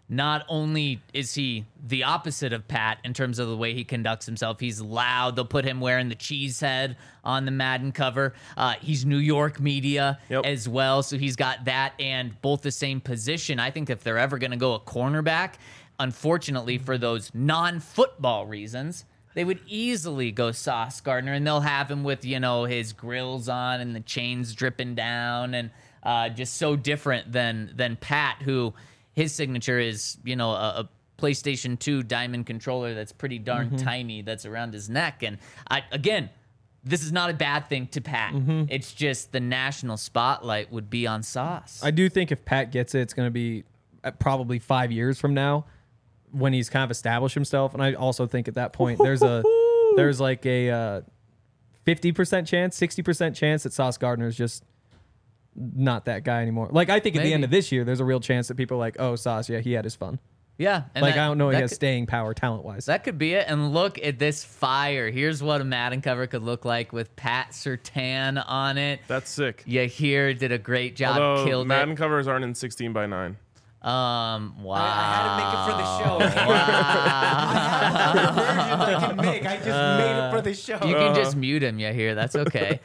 not only is he the opposite of Pat in terms of the way he conducts himself, he's loud. They'll put him wearing the cheese head on the Madden cover. He's New York media as well, so he's got that and both the same position. I think if they're ever going to go a cornerback, unfortunately for those non-football reasons, they would easily go Sauce Gardner, and they'll have him with, his grills on and the chains dripping down, and just so different than Pat, who his signature is, a PlayStation 2 diamond controller that's pretty darn tiny that's around his neck. And again, this is not a bad thing to Pat. It's just the national spotlight would be on Sauce. I do think if Pat gets it, it's going to be probably 5 years from now when he's kind of established himself. And I also think at that point there's like a 50% chance, 60% chance that Sauce Gardner is just not that guy anymore. Like, I think at the end of this year, there's a real chance that people are like, oh, Sauce, yeah, he had his fun. Yeah. And I don't know he has staying power talent-wise. That could be it. And look at this fire. Here's what a Madden cover could look like with Pat Surtain on it. That's sick. Yeah, here did a great job. Although Killed Madden it. covers aren't in 16:9. Wow. I had to make it for the show. I had another version I can make. I just made it for the show. You can just mute him, here. That's okay.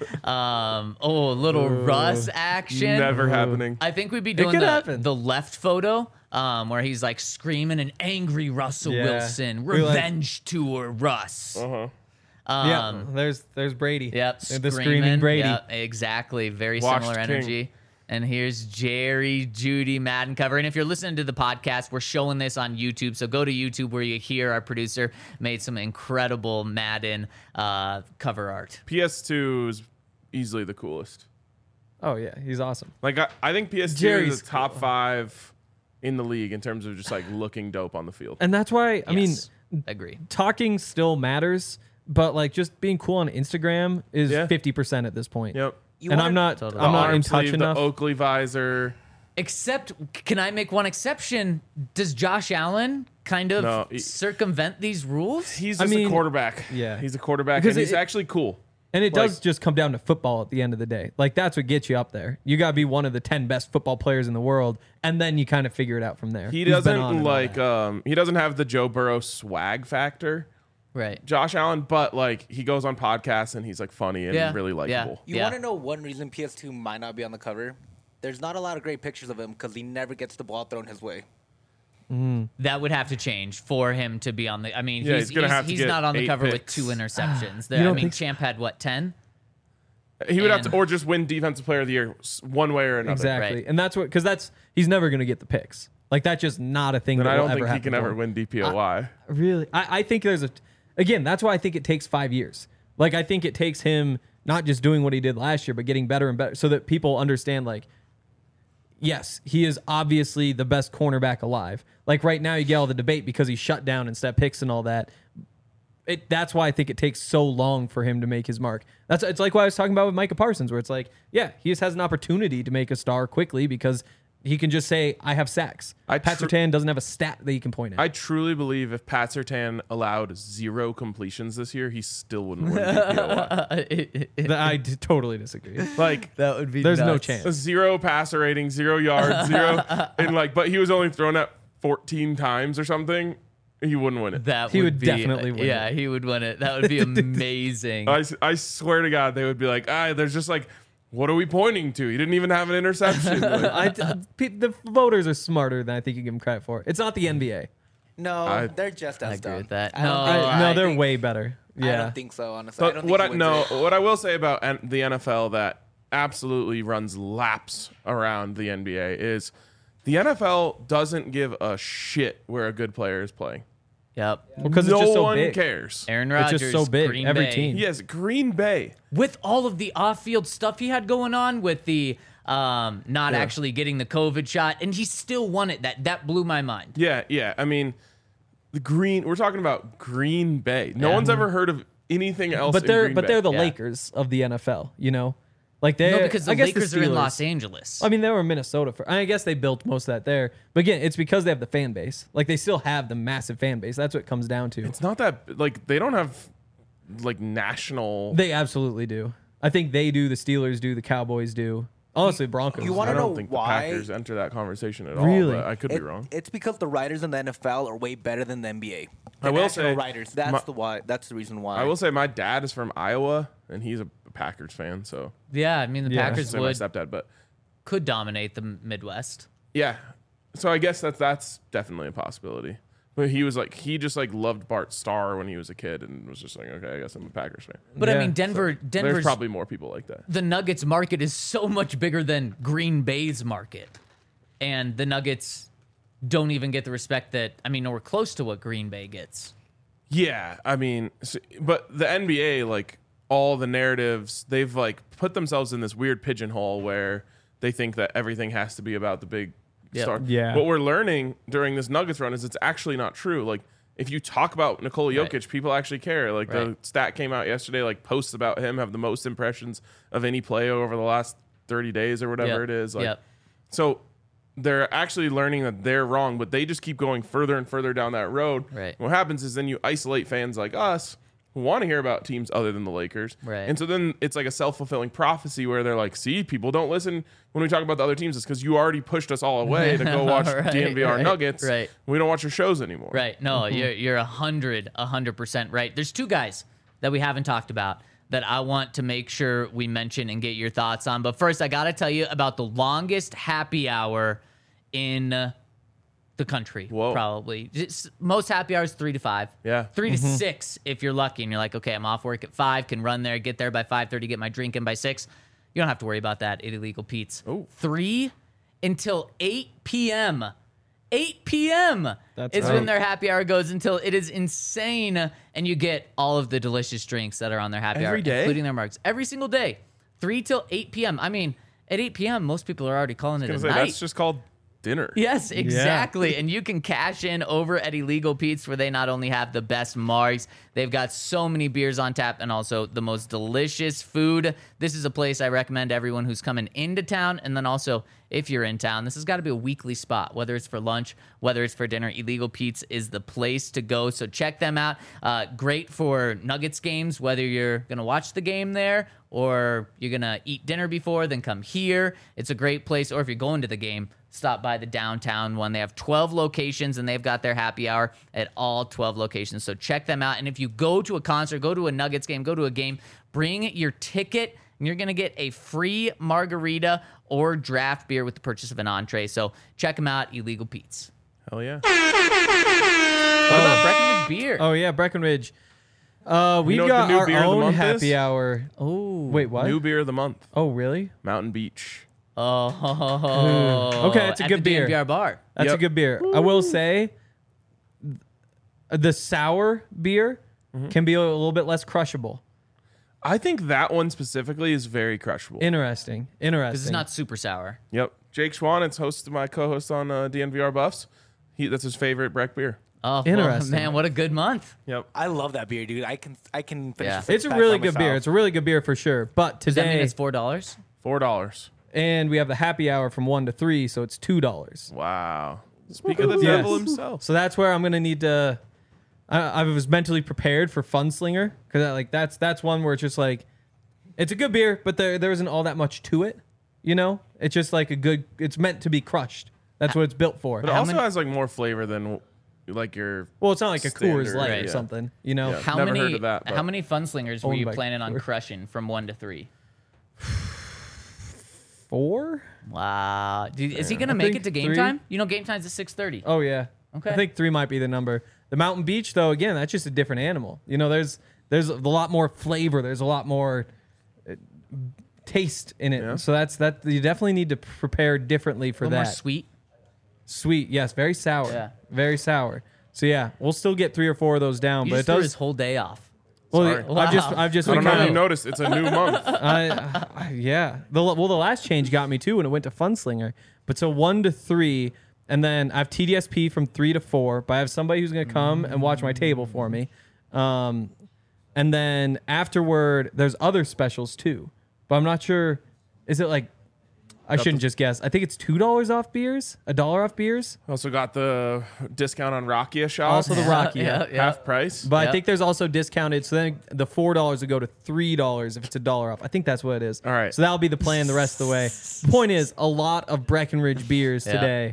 Little Russ action. Never happening. I think we'd be doing could happen. the left photo, where he's like screaming an angry Russell Wilson, We like- revenge tour Russ. Uh-huh. There's Brady. Yep, The screaming Brady. Yep, exactly. Very Washed similar King. energy. And here's Jerry Judy Madden cover. And if you're listening to the podcast, we're showing this on YouTube. So go to YouTube where you hear our producer made some incredible Madden cover art. PS2 is easily the coolest. Oh, yeah, he's awesome. Like, I think PS2 Jerry's is the top 5 in the league in terms of just like looking dope on the field. And that's why, I mean, Yes, agree. talking still matters, but like just being cool on Instagram is Yeah. 50% at this point. Yep. I'm not Totally. I'm The not in arm touch sleeve, enough. The Oakley visor. Except, can I make one exception? Does Josh Allen kind of No, circumvent these rules? He's I just mean, a quarterback. yeah. He's a quarterback, Because and he's it- actually cool. And it Like- does just come down to football at the end of the day. Like, that's what gets you up there. You got to be one of the 10 best football players in the world, and then you kind of figure it out from there. He Who's been on doesn't and all that. he doesn't have the Joe Burrow swag factor, Right. Josh Allen, but like he goes on podcasts and he's like funny and Yeah, really yeah. likable. You want to know one reason PS2 might not be on the cover? There's not a lot of great pictures of him because he never gets the ball thrown his way. That would have to change for him to be on the. I mean, Yeah, he's gonna have to he's get not on the 8 cover with picks. 2 interceptions. You I don't mean, think so? Champ had what, 10? He would have And- to, or just win Defensive Player of the Year one way or another. Exactly. Right. And that's what, because he's never going to get the picks. Like, that's just not a thing And that I will don't ever think he happen can to ever him. win DPOY. Really? I think again, that's why I think it takes 5 years. Like, I think it takes him not just doing what he did last year, but getting better and better so that people understand, like, yes, he is obviously the best cornerback alive. Like, right now, you get all the debate because he's shut down and step picks and all that. That's why I think it takes so long for him to make his mark. It's like what I was talking about with Micah Parsons, where it's like, yeah, he just has an opportunity to make a star quickly because he can just say, I have sacks. Pat Surtain doesn't have a stat that he can point at. I truly believe if Pat Surtain allowed 0 completions this year, he still wouldn't win DPOY. I totally disagree. Like, That would be There's no nuts. chance. a 0 passer rating, 0 yards, 0, and like, but he was only thrown at 14 times or something. He wouldn't win it. That He would be, definitely win Yeah, he would win it. That would be amazing. I swear to God, they would be like, there's just like, what are we pointing to? He didn't even have an interception. Like, The voters are smarter than I think you give them credit for. It's not the NBA. No, they're just I as agree dumb. with that. I don't No, think- No, I they're think- way better. I Yeah. don't think so, honestly. I but don't think he wins it. what I will say about the NFL that absolutely runs laps around the NBA is the NFL doesn't give a shit where a good player is playing. Yep. Because no it's just so one big. cares. Aaron It's Rodgers, just so big. Green Every Bay. team. Yes, Green Bay. With all of the off-field stuff he had going on with the not actually getting the COVID shot, and he still won it. That blew my mind. Yeah. I mean, we're talking about Green Bay. No Yeah. one's ever heard of anything else. But in they're Green Bay. they're the Yeah. Lakers of the NFL. You know, like they. No, because the I guess Lakers the are in Steelers- Los Angeles. I mean, they were in Minnesota for. I guess they built most of that there. But again, it's because they have the fan base. Like they still have the massive fan base. That's what it comes down to. It's not that like they don't have like national. They absolutely do. I think they do. The Steelers do. The Cowboys do. Honestly, Broncos. You want I to know don't think why? the Packers enter that conversation at Really? all. But I could be wrong. It's because the writers in the NFL are way better than the NBA. The I will national say, writers. That's the why. That's the reason why. I will say my dad is from Iowa, and he's a Packers fan. So Yeah, I mean the Yeah. I should Packers say my would stepdad, but could dominate the Midwest. yeah. So I guess that's definitely a possibility. But he was like, he just like loved Bart Starr when he was a kid, and was just like, okay, I guess I'm a Packers fan. But I Yeah. mean There's Denver's probably more people like that. the Nuggets market is so much bigger than Green Bay's market. And the Nuggets don't even get the respect that, I mean, nowhere close to what Green Bay gets. Yeah, I mean, but the NBA, like all the narratives, they've like put themselves in this weird pigeonhole where they think that everything has to be about the big Yep. star. Yeah. What we're learning during this Nuggets run is it's actually not true. Like if you talk about Nikola Right. Jokic, people actually care. Like the Right. stat came out yesterday, like posts about him have the most impressions of any player over the last 30 days or whatever Yep. it is. Like, Yep. so they're actually learning that they're wrong, but they just keep going further and further down that road. Right. What happens is then you isolate fans like us who want to hear about teams other than the Lakers. Right. And so then it's like a self-fulfilling prophecy where they're like, see, people don't listen when we talk about the other teams. It's because you already pushed us all away to go watch Right, DNVR right, Nuggets. right. We don't watch your shows anymore. Right. No, Mm-hmm. you're 100% right. There's two guys that we haven't talked about that I want to make sure we mention and get your thoughts on. But first, I got to tell you about the longest happy hour in the country. Whoa. Probably. Most happy hours 3 to 5. Yeah. 3 to 6 if you're lucky and you're like, okay, I'm off work at 5, can run there, get there by 5:30, get my drink in by 6. You don't have to worry about that at Illegal Pete's. Oh. 3 until 8 p.m. 8 p.m. That's is right. when their happy hour goes until it is insane, and you get all of the delicious drinks that are on their happy hour, Every day? including their marks, every single day, 3 till 8 p.m. I mean, at 8 p.m., most people are already calling it I a was gonna night. say, that's just called dinner. Yes, exactly. And you can cash in over at Illegal Pete's, where they not only have the best margs, they've got so many beers on tap and also the most delicious food. This is a place I recommend everyone who's coming into town. And then also, if you're in town, this has got to be a weekly spot, whether it's for lunch, whether it's for dinner. Illegal Pete's is the place to go. So check them out. Great for Nuggets games, whether you're going to watch the game there or you're going to eat dinner before, then come here. It's a great place. Or if you're going to the game, stop by the downtown one. They have 12 locations, and they've got their happy hour at all 12 locations. So check them out. And if you go to a concert, go to a Nuggets game, go to a game, bring your ticket, and you're going to get a free margarita or draft beer with the purchase of an entree. So check them out, Illegal Pete's. Hell yeah. What about Breckenridge Beer? Oh yeah, Breckenridge. We've know what got the new our beer of the own month happy is? hour. Oh. Wait, what? New beer of the month, Oh really? Mountain Beach. Oh. Okay, it's a At good the beer. DNVR bar. That's a Yep. good beer. I will say, the sour beer can be a little bit less crushable. I think that one specifically is very crushable. Interesting. Because it's not super sour. Yep. Jake Schwan, it's my co-host on DNVR Buffs. That's his favorite Breck beer. Oh, Interesting. Well, man, what a good month. Yep. I love that beer, dude. I can finish Yeah. a It's a six-pack really by good beer. myself. It's a really good beer for sure. But Does that mean today, it's $4? $4. and we have the happy hour from 1 to 3, so it's $2. Wow. Speak of the Yes. devil himself. So that's where I'm gonna need to. I was mentally prepared for Funslinger because that's one where it's just like, it's a good beer, but there isn't all that much to it. You know, it's just like a good. It's meant to be crushed. That's what it's built for. But it also has like more flavor than like your. Well, it's not like a Coors Standard, Light right, or yeah. something. You know. Yeah. How Never many heard of that, but- How many Funslingers were Owned you by planning on Coors. crushing from 1 to 3? 4? Wow. Dude, is he gonna I make think it to game 3. time? You know, game time's at 6:30. Oh yeah. Okay. I think 3 might be the number. The Mountain Beach, though, again, that's just a different animal. You know, there's a lot more flavor. There's a lot more taste in it. Yeah. So that's you definitely need to prepare differently for a little that. more sweet. Sweet, yes, very sour. Yeah. Very sour. So yeah, we'll still get 3 or 4 of those down, You but just it threw does. his whole day off. Well, Sorry. I've just I don't been know if kind you of. noticed. It's a new month. Yeah. The last change got me too when it went to Funslinger. But so 1 to 3, and then I have TDSP from 3 to 4. But I have somebody who's gonna come and watch my table for me. And then afterward, there's other specials too. But I'm not sure. Is it like I shouldn't just guess. I think it's $2 off beers, $1 off beers. Also got the discount on Rakia shots. Also the Rakia. Yeah. Half price. But Yep. I think there's also discounted. So then the $4 would go to $3 if it's $1 off. I think that's what it is. All right. So that'll be the plan the rest of the way. Point is, a lot of Breckenridge beers Yeah. today.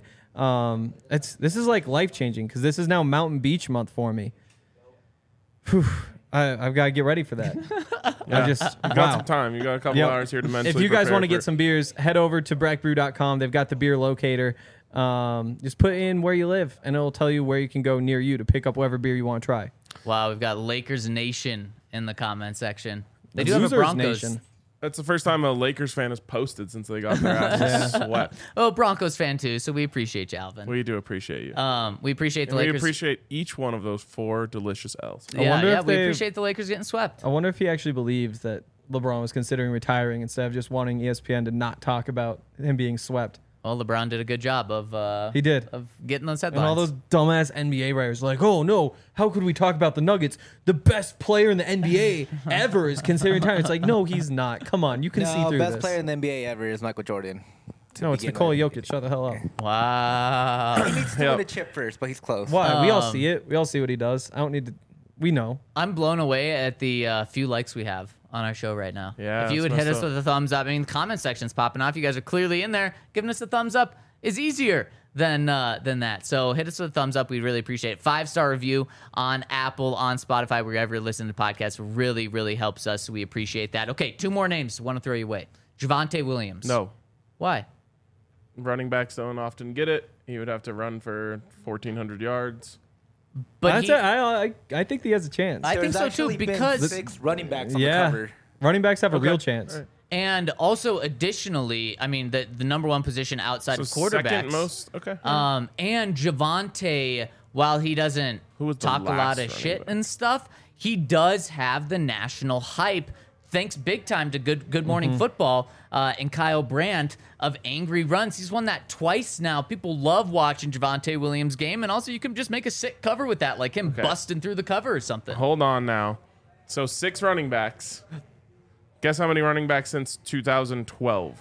This is like life changing because this is now Mountain Beach month for me. Whew. I've got to get ready for that. Yeah. I just You got wow. some time. You got a couple Yep. hours here to mentally If you guys prepare want to for get some beers, head over to breckbrew.com. They've got the beer locator. Just put in where you live, and it'll tell you where you can go near you to pick up whatever beer you want to try. Wow, we've got Lakers Nation in the comment section. They do Losers have a Broncos. Nation. That's the first time a Lakers fan has posted since they got their asses swept. Oh, Broncos fan too. So we appreciate you, Alvin. We do appreciate you. We appreciate the And we Lakers. appreciate each one of those 4 delicious L's. yeah, wonder yeah, if we they- appreciate the Lakers getting swept. I wonder if he actually believes that LeBron was considering retiring instead of just wanting ESPN to not talk about him being swept. Well, LeBron did a good job of He did. of getting those And headlines. all those dumbass NBA writers like, oh no, how could we talk about the Nuggets? The best player in the NBA ever is considering retiring. It's like, no, he's not. Come on, you can see No, through best this. player in the NBA ever is Michael Jordan. No, it's begin Nikola with. Jokic. Shut the hell up. Wow. He needs to Yep. win a chip first, but he's close. Why? We all see it. We all see what he does. I don't need to. We know. I'm blown away at the few likes we have on our show right now. Yeah, if you it's would hit messed us up. with a thumbs up, I mean, the comment section's popping off. You guys are clearly in there. Giving us a thumbs up is easier than that. So hit us with a thumbs up. We really appreciate it. 5-star review on Apple, on Spotify, wherever you listen to podcasts. Really, really helps us. So we appreciate that. Okay, 2 more names. Want to throw you away. Javonte Williams. No. Why? Running backs don't often get it. He would have to run for 1,400 yards. But I think he has a chance. I think There's so too, actually been because 6 running backs on the yeah, cover. running backs have a Okay. real chance. All right. and also additionally, I mean the number one position outside So of quarterbacks. second most. Okay. And Javonte, while he doesn't Who was the talk a lot last of running shit back? and stuff, he does have the national hype. Thanks big time to Good Morning Football and Kyle Brandt of Angry Runs. He's won that twice now. People love watching Javonte Williams' game, and also you can just make a sick cover with that, like him busting through the cover or something. Hold on now. So 6 running backs. Guess how many running backs since 2012?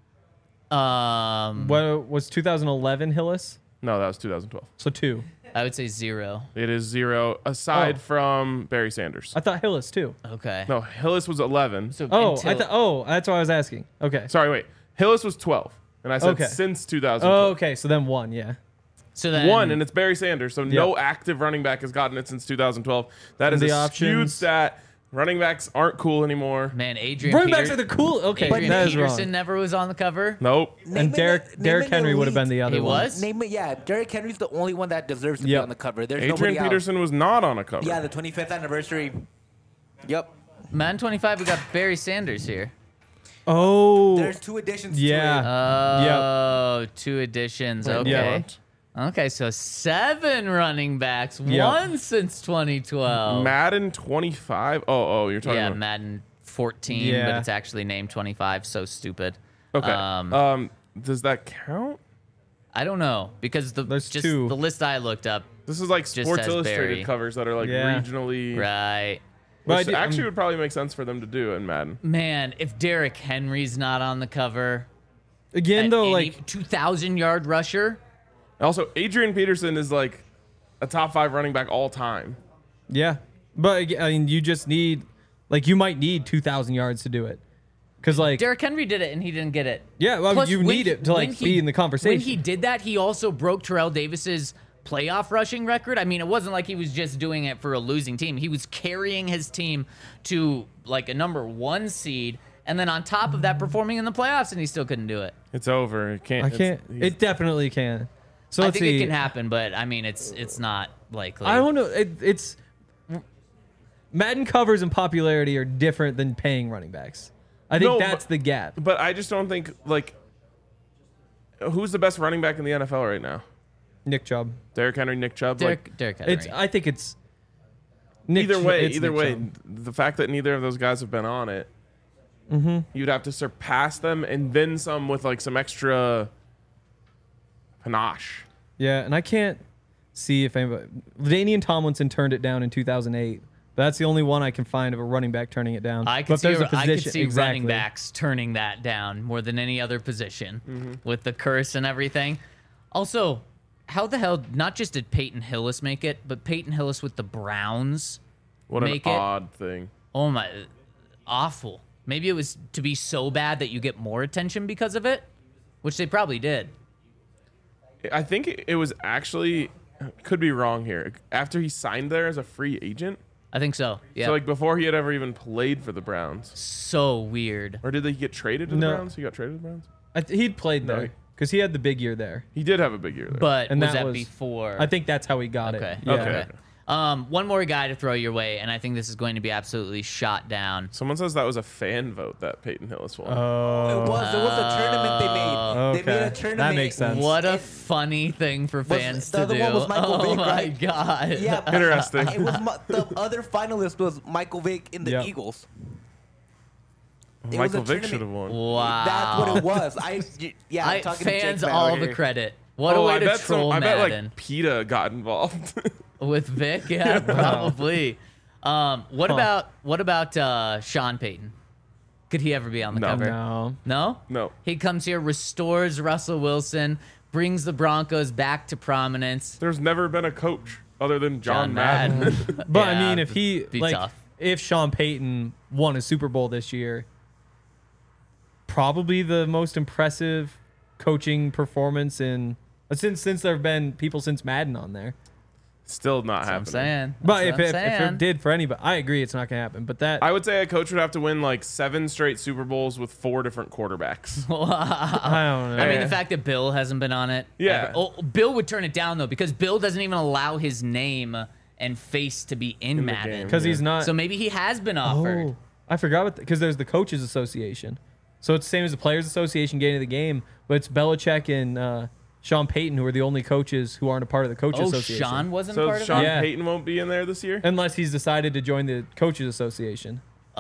What was 2011 Hillis? No, that was 2012. So 2. I would say 0. It is 0 aside Oh. from Barry Sanders. I thought Hillis too. Okay. No, Hillis was 11. So Oh, until- that's what I was asking. Okay. Sorry, wait. Hillis was 12. And I said Okay. since 2012. Oh, okay. So then 1, yeah. So then 1, and it's Barry Sanders. So no active running back has gotten it since 2012. That is The a skewed options. stat. Running backs aren't cool anymore. man, Adrian Running Peter- backs are the cool. Okay, Adrian that is Peterson wrong. never was on the cover. Nope. And Derrick Henry would have been the other He one. was? Derrick Henry's the only one that deserves to be Yep. on the cover. There's Adrian nobody else. Peterson was not on a cover. Yeah, the 25th anniversary. Yep. Man 25, we got Barry Sanders here. Oh, There's 2 additions yeah. to it. Oh, 2 additions. Okay. Yeah. Okay, so 7 running backs, Yep. 1 since 2012. Madden 25. Oh, you're talking Yeah, about. Madden 14, but Yeah. it's actually named 25. So stupid. Okay. Does that count? I don't know because There's just 2. the list I looked up. This is like Sports has Illustrated Barry. covers that are like Yeah. regionally. Right. But Which I do- actually would probably make sense for them to do in Madden. Man, if Derrick Henry's not on the cover, Again, though, like 2,000-yard rusher. Also, Adrian Peterson is like a top 5 running back all time. yeah, but I mean, you just need like you might need 2,000 yards to do it, because like Derrick Henry did it and he didn't get it. yeah, well, Plus, you when need he- it to when like he- be in the conversation. When he did that, he also broke Terrell Davis's playoff rushing record. I mean, it wasn't like he was just doing it for a losing team. He was carrying his team to like a number 1 seed, and then on top of that, performing in the playoffs, and he still couldn't do it. It's over. It can't. I can't. It definitely can. So I let's think see. it can happen, but I mean, it's not likely. I don't know. It's Madden covers and popularity are different than paying running backs. I think No, that's but- the gap. But I just don't think like. Who's the best running back in the NFL right now? Nick Chubb. Derrick Henry, Nick Chubb. Derrick Henry. I think it's Nick Either way, it's Nick Chubb. the fact that neither of those guys have been on it, you'd have to surpass them and then some with like some extra panache. Yeah, and I can't see if anybody. Danian Tomlinson turned it down in 2008. That's the only one I can find of a running back turning it down. I But could if see, there's a I could position- see exactly. running backs turning that down more than any other position with the curse and everything. Also, how the hell, not just did Peyton Hillis make it, but Peyton Hillis with the Browns What an make it. odd thing. Oh my, awful. Maybe it was to be so bad that you get more attention because of it, which they probably did. I think it was actually, could be wrong here, after he signed there as a free agent. I think so. Yeah. So like before he had ever even played for the Browns. So weird. Or did he get traded to the No. Browns? He got traded to the Browns? He'd played No, there because he had the big year there. He did have a big year there. But And was that that was- before? I think that's how he got Okay. it. Yeah. Okay. One more guy to throw your way, and I think this is going to be absolutely shot down. Someone says that was a fan vote that Peyton Hillis won. It was a tournament they made. They made a Okay. tournament. That makes sense. What a funny thing for fans the to other do. one was Michael oh Vick, my right? god. Yeah, but Interesting. It was the other finalist was Michael Vick in the Yep. Eagles. It was Michael a Vick tournament. should have won. Wow. That's what it was. I'm talking to fans Jake all over the here. credit. What Oh, a way I to bet troll I bet Madden. like PETA got involved. With Vic, yeah, probably. What about Sean Payton? Could he ever be on the No. cover? No. No? No. He comes here, restores Russell Wilson, brings the Broncos back to prominence. There's never been a coach other than John John Madden. Madden. But I Yeah, mean, if he be like, tough. if Sean Payton won a Super Bowl this year, probably the most impressive coaching performance in since there have been people since Madden on there. Still not That's what I'm happening. saying. But That's if what I'm it saying. did for anybody, I agree it's not gonna happen. But that I would say a coach would have to win like 7 straight Super Bowls with 4 different quarterbacks. I don't know. I mean, Yeah. the fact that Bill hasn't been on it. Yeah. ever- Oh, Bill would turn it down, though, because Bill doesn't even allow his name and face to be in the Madden. game. because he's not. So maybe he has been offered. Oh, I forgot about because there's the coaches association, so it's the same as the players association getting to the game, but it's Belichick and Sean Payton who are the only coaches who aren't a part of the coaches Oh, association. Sean wasn't So part of Sean it? Yeah. Payton won't be in there this year? Unless he's decided to join the coaches association.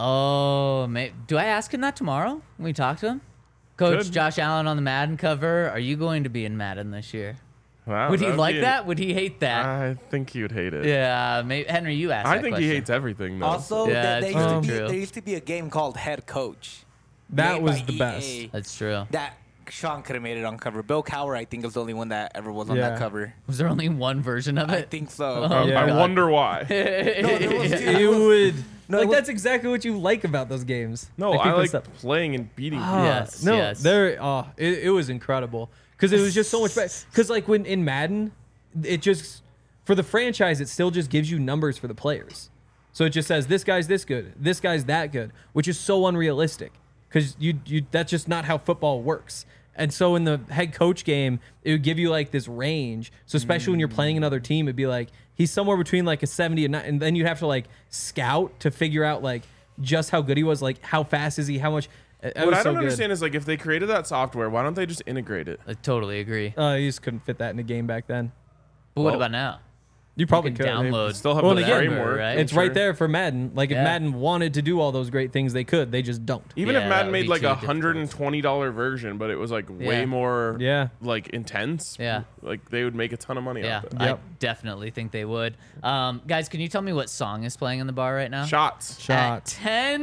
Oh, do I ask him that tomorrow when we talk to him? Coach Could. Josh Allen on the Madden cover. Are you going to be in Madden this year? Wow, Would he that'd like be- that? Would he hate that? I think he would hate it. Yeah, maybe, Henry, you asked I that think question. he hates everything, though. Also, Yeah, there, it's used to really be, true. there used to be a game called Head Coach. That made was by the EA. best. That's true. That Sean could have made it on cover. Bill Cowher, I think, is the only one that ever was on Yeah. that cover. Was there only one version of I it? think so. Oh, Yeah. I God. wonder why. No, there was two. It would. No, like it was- that's exactly what you like about those games. No, Like, I people like stop- playing and beating people. Yes, No, yes. there. It was incredible because it was just so much better. Because like when in Madden, it just for the franchise, it still just gives you numbers for the players. So it just says this guy's this good, this guy's that good, which is so unrealistic because you that's just not how football works. And so in the head coach game, it would give you like this range. So especially when you're playing another team, it'd be like he's somewhere between like a 70 and 9, and then you'd have to like scout to figure out like just how good he was, like how fast is he, how much. It What was I so don't good. understand is like if they created that software, why don't they just integrate it? I totally agree. You just couldn't fit that in a game back then. But what Well, about now? You probably You could. can download. Still have Well, the again, framework. right? It's I'm right sure. there for Madden. Like if Yeah. Madden wanted to do all those great things, they could. They just don't. Even Yeah, if that Madden would made be like too a difficult. $120 version, but it was like way Yeah. more Yeah. like intense. Yeah. Like they would make a ton of money Yeah, off it. I Yep. definitely think they would. Guys, can you tell me what song is playing in the bar right now? Shots. Shot. At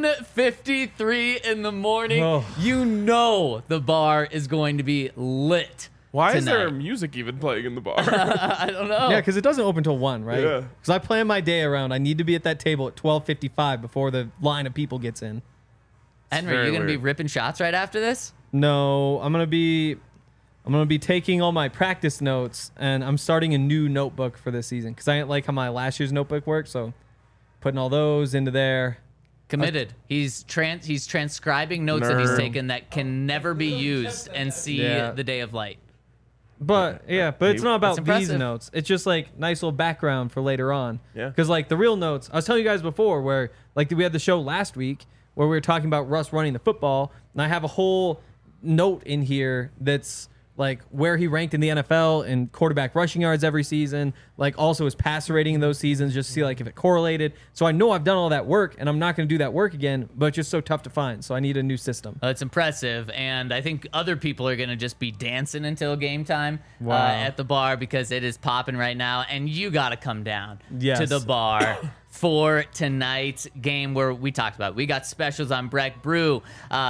10:53 in the morning, Oh. you know the bar is going to be lit. Why is there tonight. music even playing in the bar? I don't know. Yeah, because it doesn't open till 1, right? Yeah. Because I plan my day around. I need to be at that table at 12:55 before the line of people gets in. Henry, very you gonna be weird. ripping shots right after this? No, I'm gonna be taking all my practice notes, and I'm starting a new notebook for this season because I didn't like how my last year's notebook worked. So putting all those into there. Committed. He's transcribing notes that he's Nerd. taken that can never be used and see Yeah. the day of light. But it's not about That's these impressive. notes. It's just like nice little background for later on. Yeah. Because like the real notes, I was telling you guys before, where like we had the show last week where we were talking about Russ running the football, and I have a whole note in here that's like where he ranked in the NFL in quarterback rushing yards every season, like also his passer rating in those seasons, just to see like if it correlated. So I know I've done all that work, and I'm not going to do that work again, but it's just so tough to find. So I need a new system. It's impressive, and I think other people are going to just be dancing until game time Wow. at the bar because it is popping right now, and you got to come down Yes. to the bar for tonight's game where we talked about it. We got specials on Breck Brew.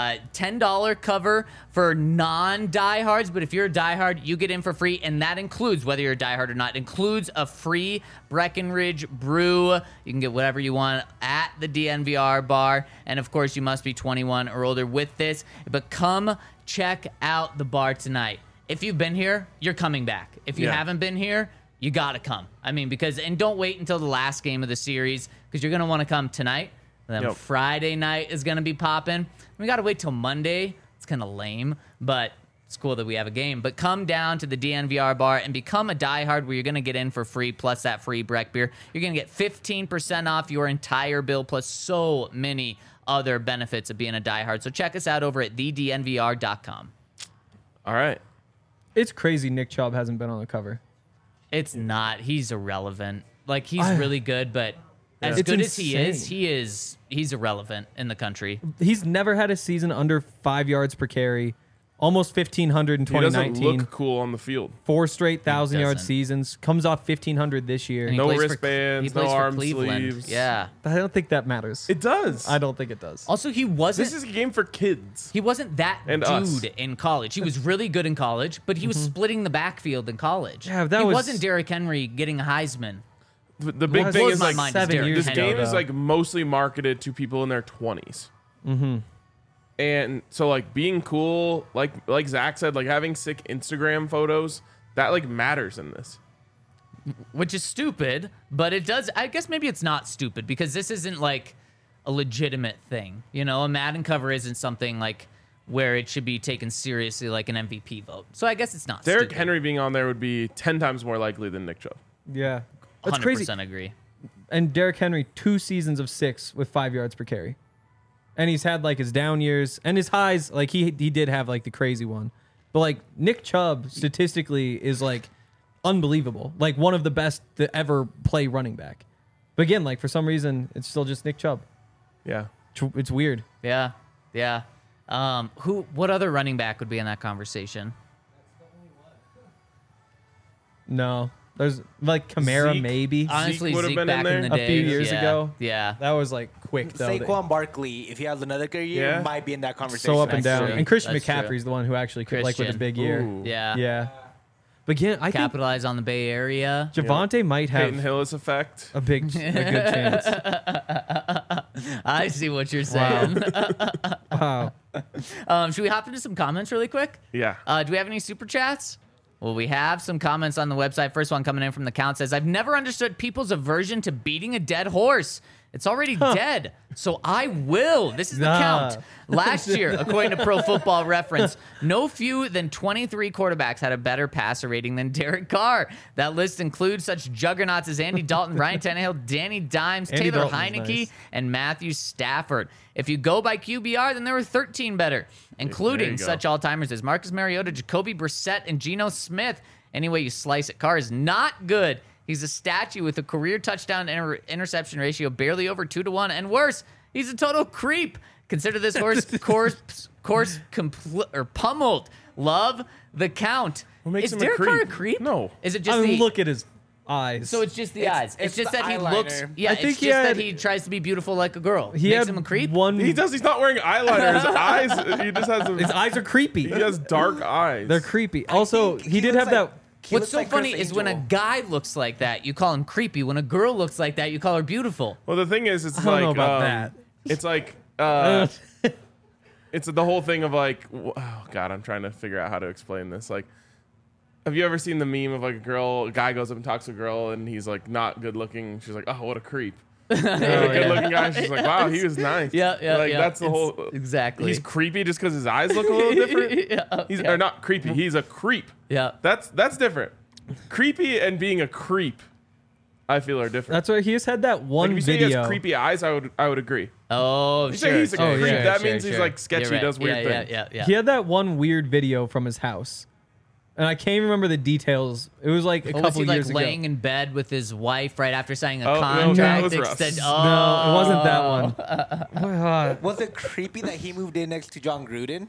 $10 cover for non-diehards, but if you're a diehard, you get in for free, and that includes, whether you're a diehard or not, includes a free Breckenridge brew. You can get whatever you want at the DNVR bar, and of course, you must be 21 or older with this. But come check out the bar tonight. If you've been here, you're coming back. If you haven't been here, you got to come. I mean, and don't wait until the last game of the series, because you're going to want to come tonight. And then Friday night is going to be popping. We got to wait till Monday. It's kind of lame, but it's cool that we have a game. But come down to the DNVR bar and become a diehard, where you're going to get in for free, plus that free Breck beer. You're going to get 15% off your entire bill, plus so many other benefits of being a diehard. So check us out over at thednvr.com. All right. It's crazy Nick Chubb hasn't been on the cover. It's not. He's irrelevant. Like, he's really good, but as It's good insane. as he is, he's irrelevant in the country. He's never had a season under 5 yards per carry. Almost 1,500 in He doesn't 2019. look cool on the field. 4 straight 1,000-yard doesn't. seasons. Comes off 1,500 this year. And he No plays for- wristbands, he plays no for arm Cleveland. sleeves. Yeah. I don't think that matters. It does. I don't think it does. Also, he wasn't. This is a game for kids. He wasn't that And dude us. in college. He was really good in college, but he was splitting the backfield in college. Yeah, that he was- wasn't Derrick Henry getting a Heisman. The big Well, thing blows is my like mind. 7 years this ago, game is though. like mostly marketed to people in their 20s. Mm-hmm. And so like being cool, like Zach said, like having sick Instagram photos, that like matters in this. Which is stupid, but it does. I guess maybe it's not stupid, because this isn't like a legitimate thing. You know, a Madden cover isn't something like where it should be taken seriously, like an MVP vote. So I guess it's not Derrick stupid. Henry being on there would be 10 times more likely than Nick Chubb. Yeah. That's 100% crazy. agree. And Derrick Henry, 2 seasons of 6 with 5 yards per carry. And he's had like his down years and his highs. Like he did have like the crazy one. But like Nick Chubb statistically is like unbelievable. Like one of the best to ever play running back. But again, like for some reason, it's still just Nick Chubb. Yeah. It's weird. Yeah, yeah. What other running back would be in that conversation? No. There's like Kamara Zeke? maybe. Honestly, would've Zeke been back in in the there? A few days, years yeah, ago. Yeah. That was like quick though. Saquon Barkley, if he has another good year, Yeah. might be in that conversation. So up and That's down. true. And Christian That's true. McCaffrey's the one who actually could like with a Christian. big year. Ooh. Yeah. Yeah. But again, I think Capitalize on the Bay Area. Javante might have Peyton Hillis effect. a good chance. I see what you're saying. Wow. Should we hop into some comments really quick? Yeah. Do we have any super chats? Well, we have some comments on the website. First one coming in from the Count says, I've never understood people's aversion to beating a dead horse. It's already dead, so I will. This is the Nah. Count. Last year, according to Pro Football Reference, no fewer than 23 quarterbacks had a better passer rating than Derek Carr. That list includes such juggernauts as Andy Dalton, Ryan Tannehill, Danny Dimes, Andy Taylor Dalton's Heineke, nice. and Matthew Stafford. If you go by QBR, then there were 13 better, including you go. such all-timers as Marcus Mariota, Jacoby Brissett, and Geno Smith. Any way you slice it, Carr is not good. He's a statue with a career touchdown interception ratio barely over 2-1, and worse, he's a total creep. Consider this course pummeled. Love the Count. What makes is him a Derek Carr a creep? creep? No. Is it just I mean, the look at his eyes. So it's just the eyes. It's just the that he eyeliner. looks. Yeah, I it's think just he had- that he tries to be beautiful like a girl. he Makes had him a creep. one. He does. He's not wearing eyeliner. His eyes. He just has. His eyes are creepy. He has dark eyes. They're creepy. Also, think he did looks have that. he What's looks so like funny Chris is when a Angel. guy looks like that, you call him creepy. When a girl looks like that, you call her beautiful. Well, the thing is, it's I don't like know about that. It's like it's the whole thing of like, oh god, I'm trying to figure out how to explain this. Like, have you ever seen the meme of like a guy goes up and talks to a girl, and he's like not good looking. She's like, oh, what a creep. And a good looking guy. She's like, wow, he was nice. Yeah. Like that's the It's- whole. exactly. He's creepy just because his eyes look a little different. Yeah, He's yeah. or not creepy. He's a creep. Yeah. That's different. Creepy and being a creep, I feel are different. That's why he just had that Like one if you say he video. has creepy eyes, I would agree. Oh, You sure. say he's a sure, creep, sure, that sure, means he's sure. like sketchy, You're right. does weird things. Yeah. He had that one weird video from his house, and I can't remember the details. It was like a Or was couple he like years ago. laying in bed with his wife right after signing a Oh, no, that contract? was Russ. Oh, No, it wasn't that one. Was it creepy that he moved in next to John Gruden?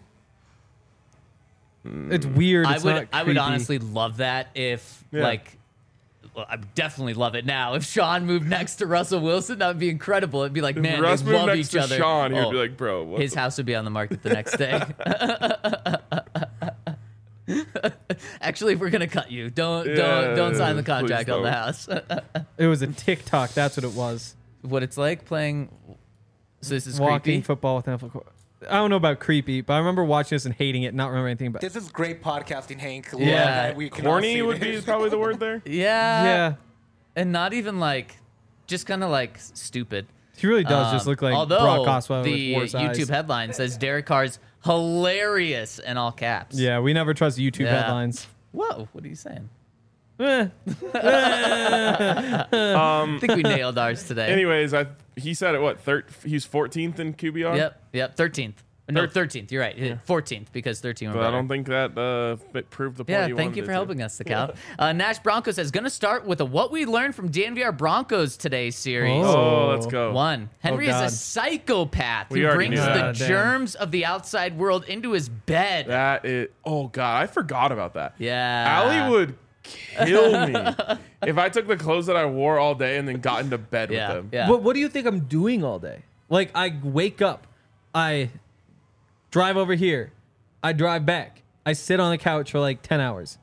It's weird. I It's would not I would creepy. honestly love that if Yeah. like Well, I would definitely love it now. If Sean moved next to Russell Wilson, that would be incredible. It'd be like, man, Russ they moved love next each to other. Sean, he'd Oh, be like, bro, what his house would be on the market the next day. Actually, we're gonna cut you. Don't sign the contract please on the don't. house. It was a TikTok. That's what it was. What it's like playing. So this is Walking creepy. football with NFL. I don't know about creepy, but I remember watching this and hating it, not remember anything about it. This is great podcasting, Hank. Yeah. We can all corny see would be this. probably the word there. Yeah. Yeah. And not even like, just kind of like stupid. He really does just look like Although Brock Osweiler the with worse eyes. YouTube headline says Derek Carr's hilarious in all caps. Yeah, we never trust YouTube Yeah. headlines. Whoa, what are you saying? Eh. I think we nailed ours today. Anyways, he said it. What? He's 14th in QBR. Yep. 13th. No, 13th. You're right. 14th because 13 were But better. I don't think that proved the point. Yeah, he thank wanted you it for to. helping us, Scout. Nash Broncos says, going to start with a What We Learned from DNVR Broncos Today series. Oh, let's go. One, Henry is a God. psychopath We who already brings knew the that. Damn. germs of the outside world into his bed. That is. Oh God, I forgot about that. Yeah. Allie would kill me if I took the clothes that I wore all day and then got into bed with Yeah, them. yeah. What do you think I'm doing all day? Like, I wake up, I drive over here, I drive back, I sit on the couch for like 10 hours.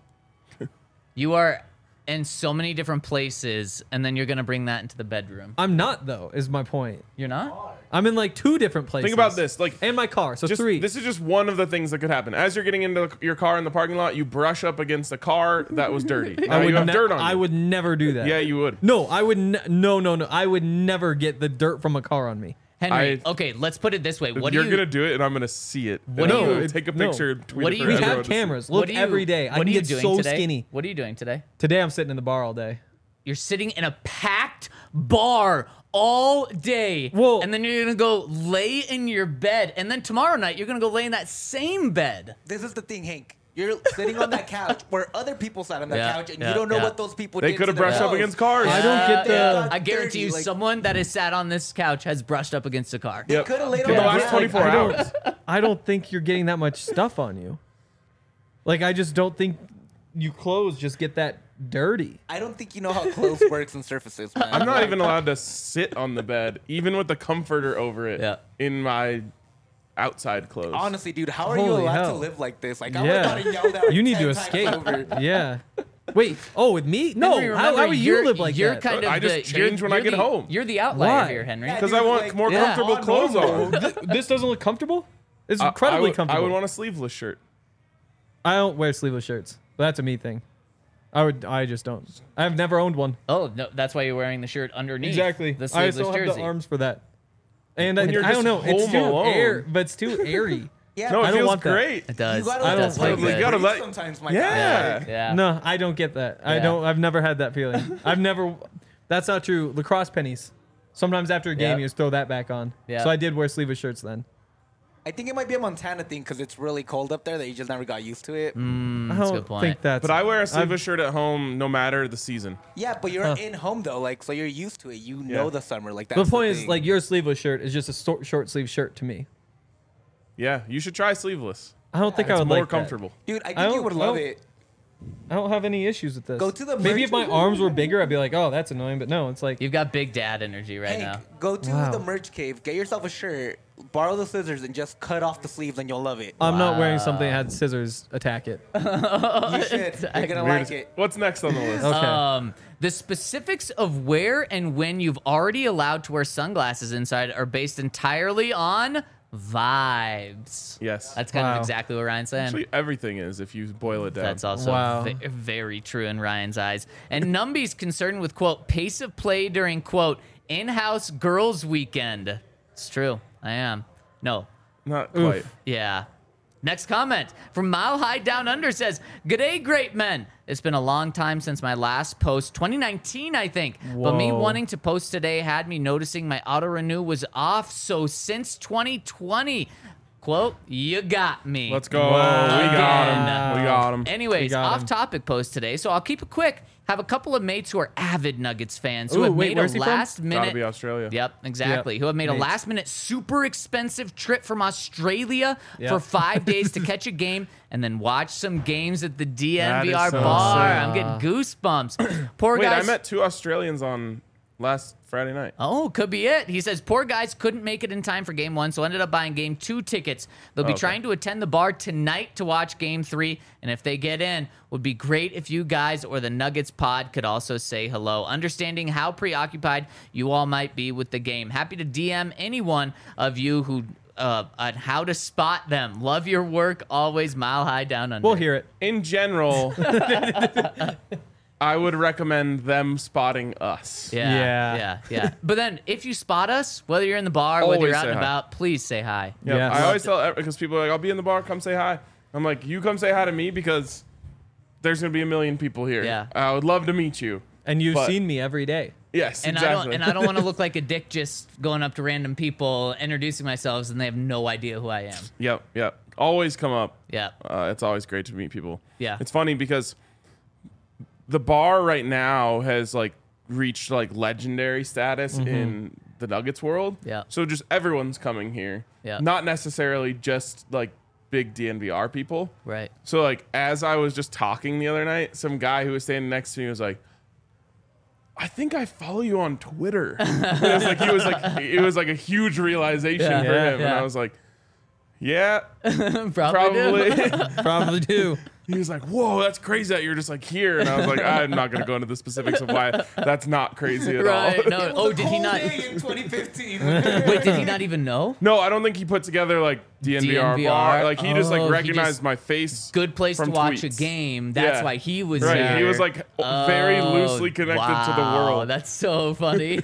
You are in so many different places, and then you're going to bring that into the bedroom. I'm not, though, is my point. You're not? I'm in like 2 different places. Think about this, like. And my car, so Just, 3. this is just one of the things that could happen. As you're getting into your car in the parking lot, you brush up against a car that was dirty. Now you have dirt on you. I would never do that. Yeah, you would. No, I would. No. I would never get the dirt from a car on me. Henry, I- okay, let's put it this way. What You're do you gonna do it, and I'm gonna see it. What And do I'm you- gonna take a no. picture? And tweet What it do for you- We everyone have to see. cameras. what Look do you- every day. I what can are you get doing so today? skinny. What are you doing today? Today I'm sitting in the bar all day. You're sitting in a packed bar all day. Whoa. And then you're going to go lay in your bed. And then tomorrow night, you're going to go lay in that same bed. This is the thing, Hank. You're sitting on that couch where other people sat on that Yeah, couch, and yeah, you don't know yeah. what those people They did. could have to brushed up themselves. against cars. I don't get They the- got I guarantee dirty, you, like, someone that has sat on this couch has brushed up against a car. Yep. coulda laid For on the the last ground. 24 I don't- hours. I don't think you're getting that much stuff on you. Like, I just don't think you clothes just get that dirty. I don't think you know how clothes works and surfaces, man. I'm not even allowed to sit on the bed, even with the comforter over it, Yeah. in my outside clothes. Honestly, dude, how are you Holy allowed hell. to live like this? Like, I Yeah. would have gotten yelled at. You need 10 to times escape. over. Yeah. Wait. Oh, with me? No. Henry, How remember, would you you're- live like you're that? Kind of I just the- change when I you're get the- home. You're the outlier Why? here, Henry. Yeah, Because dude, I want like, more yeah. comfortable on clothes normal. on. This doesn't look comfortable? It's incredibly comfortable. I would want a sleeveless shirt. I don't wear sleeveless shirts. But that's a me thing. I just don't. I've never owned one. Oh, no, that's why you're wearing the shirt underneath. Exactly. The I sleeveless still have jersey. the arms for that. And When you're I don't just know. It's home too alone. but it's too airy. Yeah, No, I it don't feels want that. great. It does. you gotta It let does the feel breathe You good. gotta let- sometimes, my Yeah. guy. Yeah. No, I don't get that. Yeah. I've never had that feeling. I've never. That's not true. Lacrosse pennies. Sometimes after a game, Yep. you just throw that back on. Yeah. So I did wear sleeveless shirts then. I think it might be a Montana thing because it's really cold up there that you just never got used to it. I That's a don't good point. think that's. But I wear a sleeveless shirt at home no matter the season. Yeah, but you're in home though, like so you're used to it. You know Yeah. the summer, like that's The point is, thing. like, your sleeveless shirt is just a short sleeve shirt to me. Yeah, you should try sleeveless. I don't think I It's would more like that. comfortable. dude, I I think you don't- would I love don't- it. I don't have any issues with this. Go to the Maybe if my merch- arms were bigger, I'd be like, oh, that's annoying. But no, it's like You've got big dad energy right Hank, now. go to Wow. the merch cave, get yourself a shirt, borrow the scissors, and just cut off the sleeves, and you'll love it. I'm not wearing something that had scissors attack it. You should. You're gonna like it. What's next on the list? Okay. The specifics of where and when you've already allowed to wear sunglasses inside are based entirely on vibes. Yes. That's kind Wow. of exactly what Ryan's saying. Actually, everything is if you boil it down. That's also Wow. very true in Ryan's eyes. And Numby's concerned with, quote, pace of play during, quote, in-house girls weekend. It's true. I am. No. Not quite. Yeah. Next comment from Mile High Down Under says, "G'day, great men. It's been a long time since my last post, 2019, I think. But me Whoa. wanting to post today had me noticing my auto renew was off. So since 2020, Quote, you got me. Let's go. Wow. We got him. Again. We got him. Anyways, We got him. off-topic post today, so I'll keep it quick. Have a couple of mates who are avid Nuggets fans who Ooh, have wait, made where's a he from? Gotta last-minute. be Australia. Yep, exactly. Yep. Who have made a Mates. last-minute, super expensive trip from Australia Yep. for 5 days to catch a game and then watch some games at the That DNVR is so bar. sick. I'm getting goosebumps. Poor Wait, guys. I met 2 Australians on last Friday night. Oh, could be it. He says, poor guys couldn't make it in time for game 1, so ended up buying game 2 tickets. They'll be Okay. trying to attend the bar tonight to watch game 3, and if they get in, would be great if you guys or the Nuggets pod could also say hello. Understanding how preoccupied you all might be with the game. Happy to DM any one of you who on how to spot them. Love your work, always mile high down under. We'll hear it. In general, I would recommend them spotting us. Yeah. But then if you spot us, whether you're in the bar, whether Always you're out say and hi. about, please say hi. Yeah, Yes. I always tell because people are like, I'll be in the bar, come say hi. I'm like, you come say hi to me because there's gonna be a million people here. Yeah. I would love to meet you. And you've But- seen me every day. Yes, And exactly. I don't want to look like a dick just going up to random people, introducing myself, and they have no idea who I am. Yep. Always come up. Yeah. It's always great to meet people. Yeah. It's funny because the bar right now has like reached like legendary status in the Nuggets world. Yeah. So just everyone's coming here. Yeah. Not necessarily just like big DNVR people. Right. So like as I was just talking the other night, some guy who was standing next to me was like, I think I follow you on Twitter. It was like a huge realization Yeah. for Yeah, him. And yeah. I was like, yeah, Probably. do. probably. Probably do. He was like, whoa, that's crazy that you're just like here. And I was like, I'm not going to go into the specifics of why that's not crazy at Right. all. No. Oh, did he not? Day in 2015. Wait, did he not even know? No, I don't think he put together like DNVR, DNVR. bar. Like he just Oh, like he recognized just- my face. Good place to from watch a tweets. game. That's Yeah. why he was Right. here. He was like very Oh, loosely connected to the wow, world. That's so funny.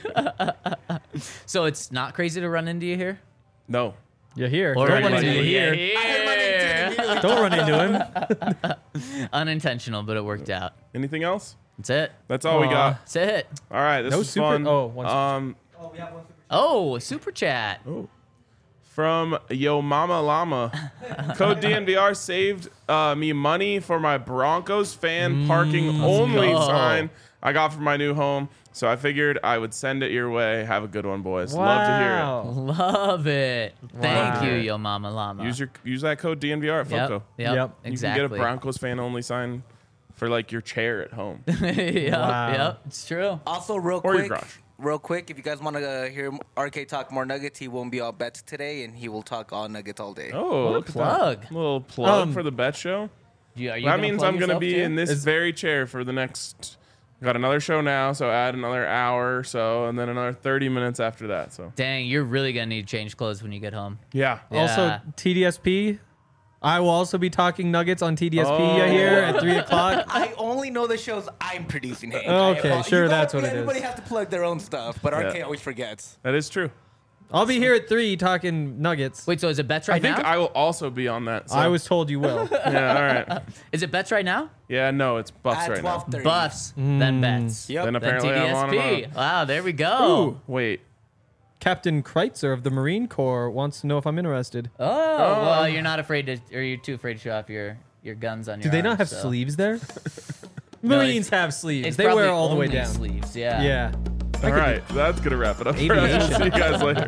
So it's not crazy to run into you here? No. You're here. Or Don't run run into into you you here. I heard my name too, immediately. Don't run into him. Unintentional, but it worked out. Anything else? That's it. That's all we Aw. got. That's it. All right. This No is super- fun. oh, one super- Oh, we have one super Oh, super chat. From Yo Mama Llama. Code DNVR saved me money for my Broncos fan parking only go. sign I got for my new home. So I figured I would send it your way. Have a good one, boys. Love to hear Wow. Love it. Thank Wow. you, Yo Mama Llama. it. Use that code DNVR at Yep. Foco. Yep. Yep. You Exactly. can get a Broncos fan only sign for like your chair at home. Yep. Wow. Yep. It's true. Also, real Or your quick, garage. if you guys want to hear RK talk more Nuggets, he won't be all bets today, and he will talk all Nuggets all day. Oh, What a look at plug. that. Little plug Um, for the bet show. Are you That gonna means plug I'm going to yourself be too? in this very chair for the next. Got another show now, so add another hour or so, and then another 30 minutes after that. So Dang, you're really gonna need to change clothes when you get home. yeah. Also, Yeah. TDSP. I will also be talking Nuggets on TDSP Oh. here at 3 o'clock. I only know the shows I'm producing. Hank. Okay, sure, that's what it is. Everybody has to plug their own stuff, but RK Yeah. always forgets. That is true. I'll be here at 3 talking Nuggets. Wait, so is it bets I right think now? I will also be on that. So. I was told you will. Yeah, all right. Is it bets right now? Yeah, no, it's Buffs At right now. 12:30. Buffs, then bets. Yep. Then Then apparently I'm on and TDSP. on. Wow, there we go. Wait. Captain Kreitzer of the Marine Corps wants to know if I'm interested. Oh, well, you're not afraid to, or you're too afraid to show off your guns on your Do they not arms, have so. sleeves there? No, Marines it's- have sleeves. It's They wear probably all the way only down. sleeves, yeah. Yeah. All right, that's gonna wrap it up. For us. We'll Aviation. see you guys later.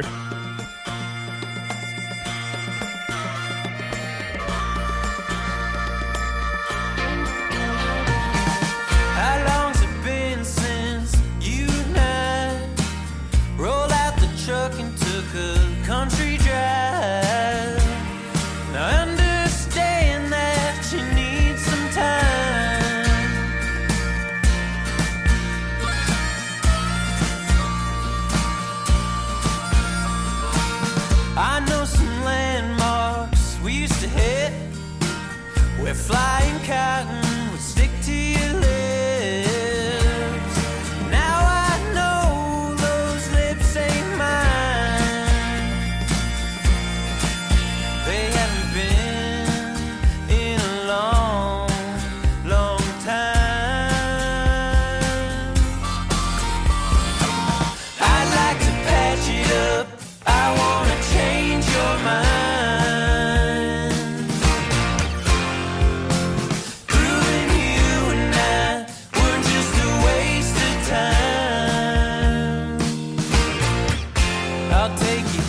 How long's it been since you and I rolled out the truck and took a country drive? Now I understand that you need some time. I know some landmarks we used to hit where flying cotton would stick to your lips. Now I know those lips ain't mine. They haven't been in a long, long time. I'd like to patch it up. I wanna change your mind.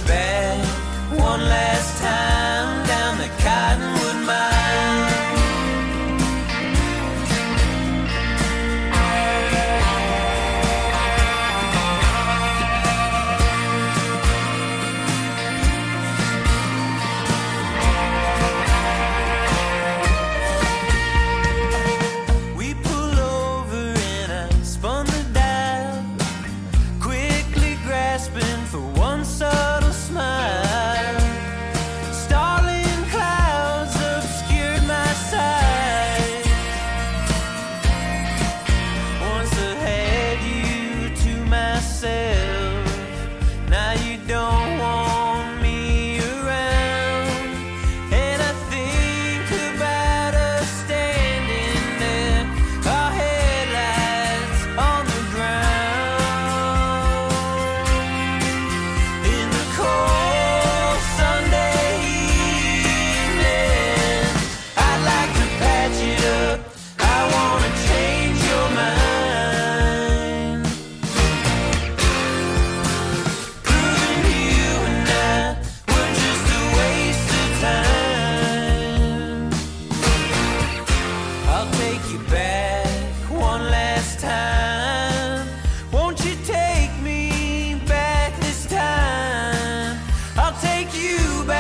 back one last time down the Cottonwood Mile. We pull over and I spun the dial, quickly grasping for one subtle smile. Starling clouds obscured my sight. Once I had you to myself, now you don't want me around. And I think about us standing there, our headlights on the ground. In the cold Sunday evening, I'd like to patch it up. I wanna change your mind. Proving you and I were just a waste of time. I'll take you back one last time. Won't you take me back this time? I'll take you back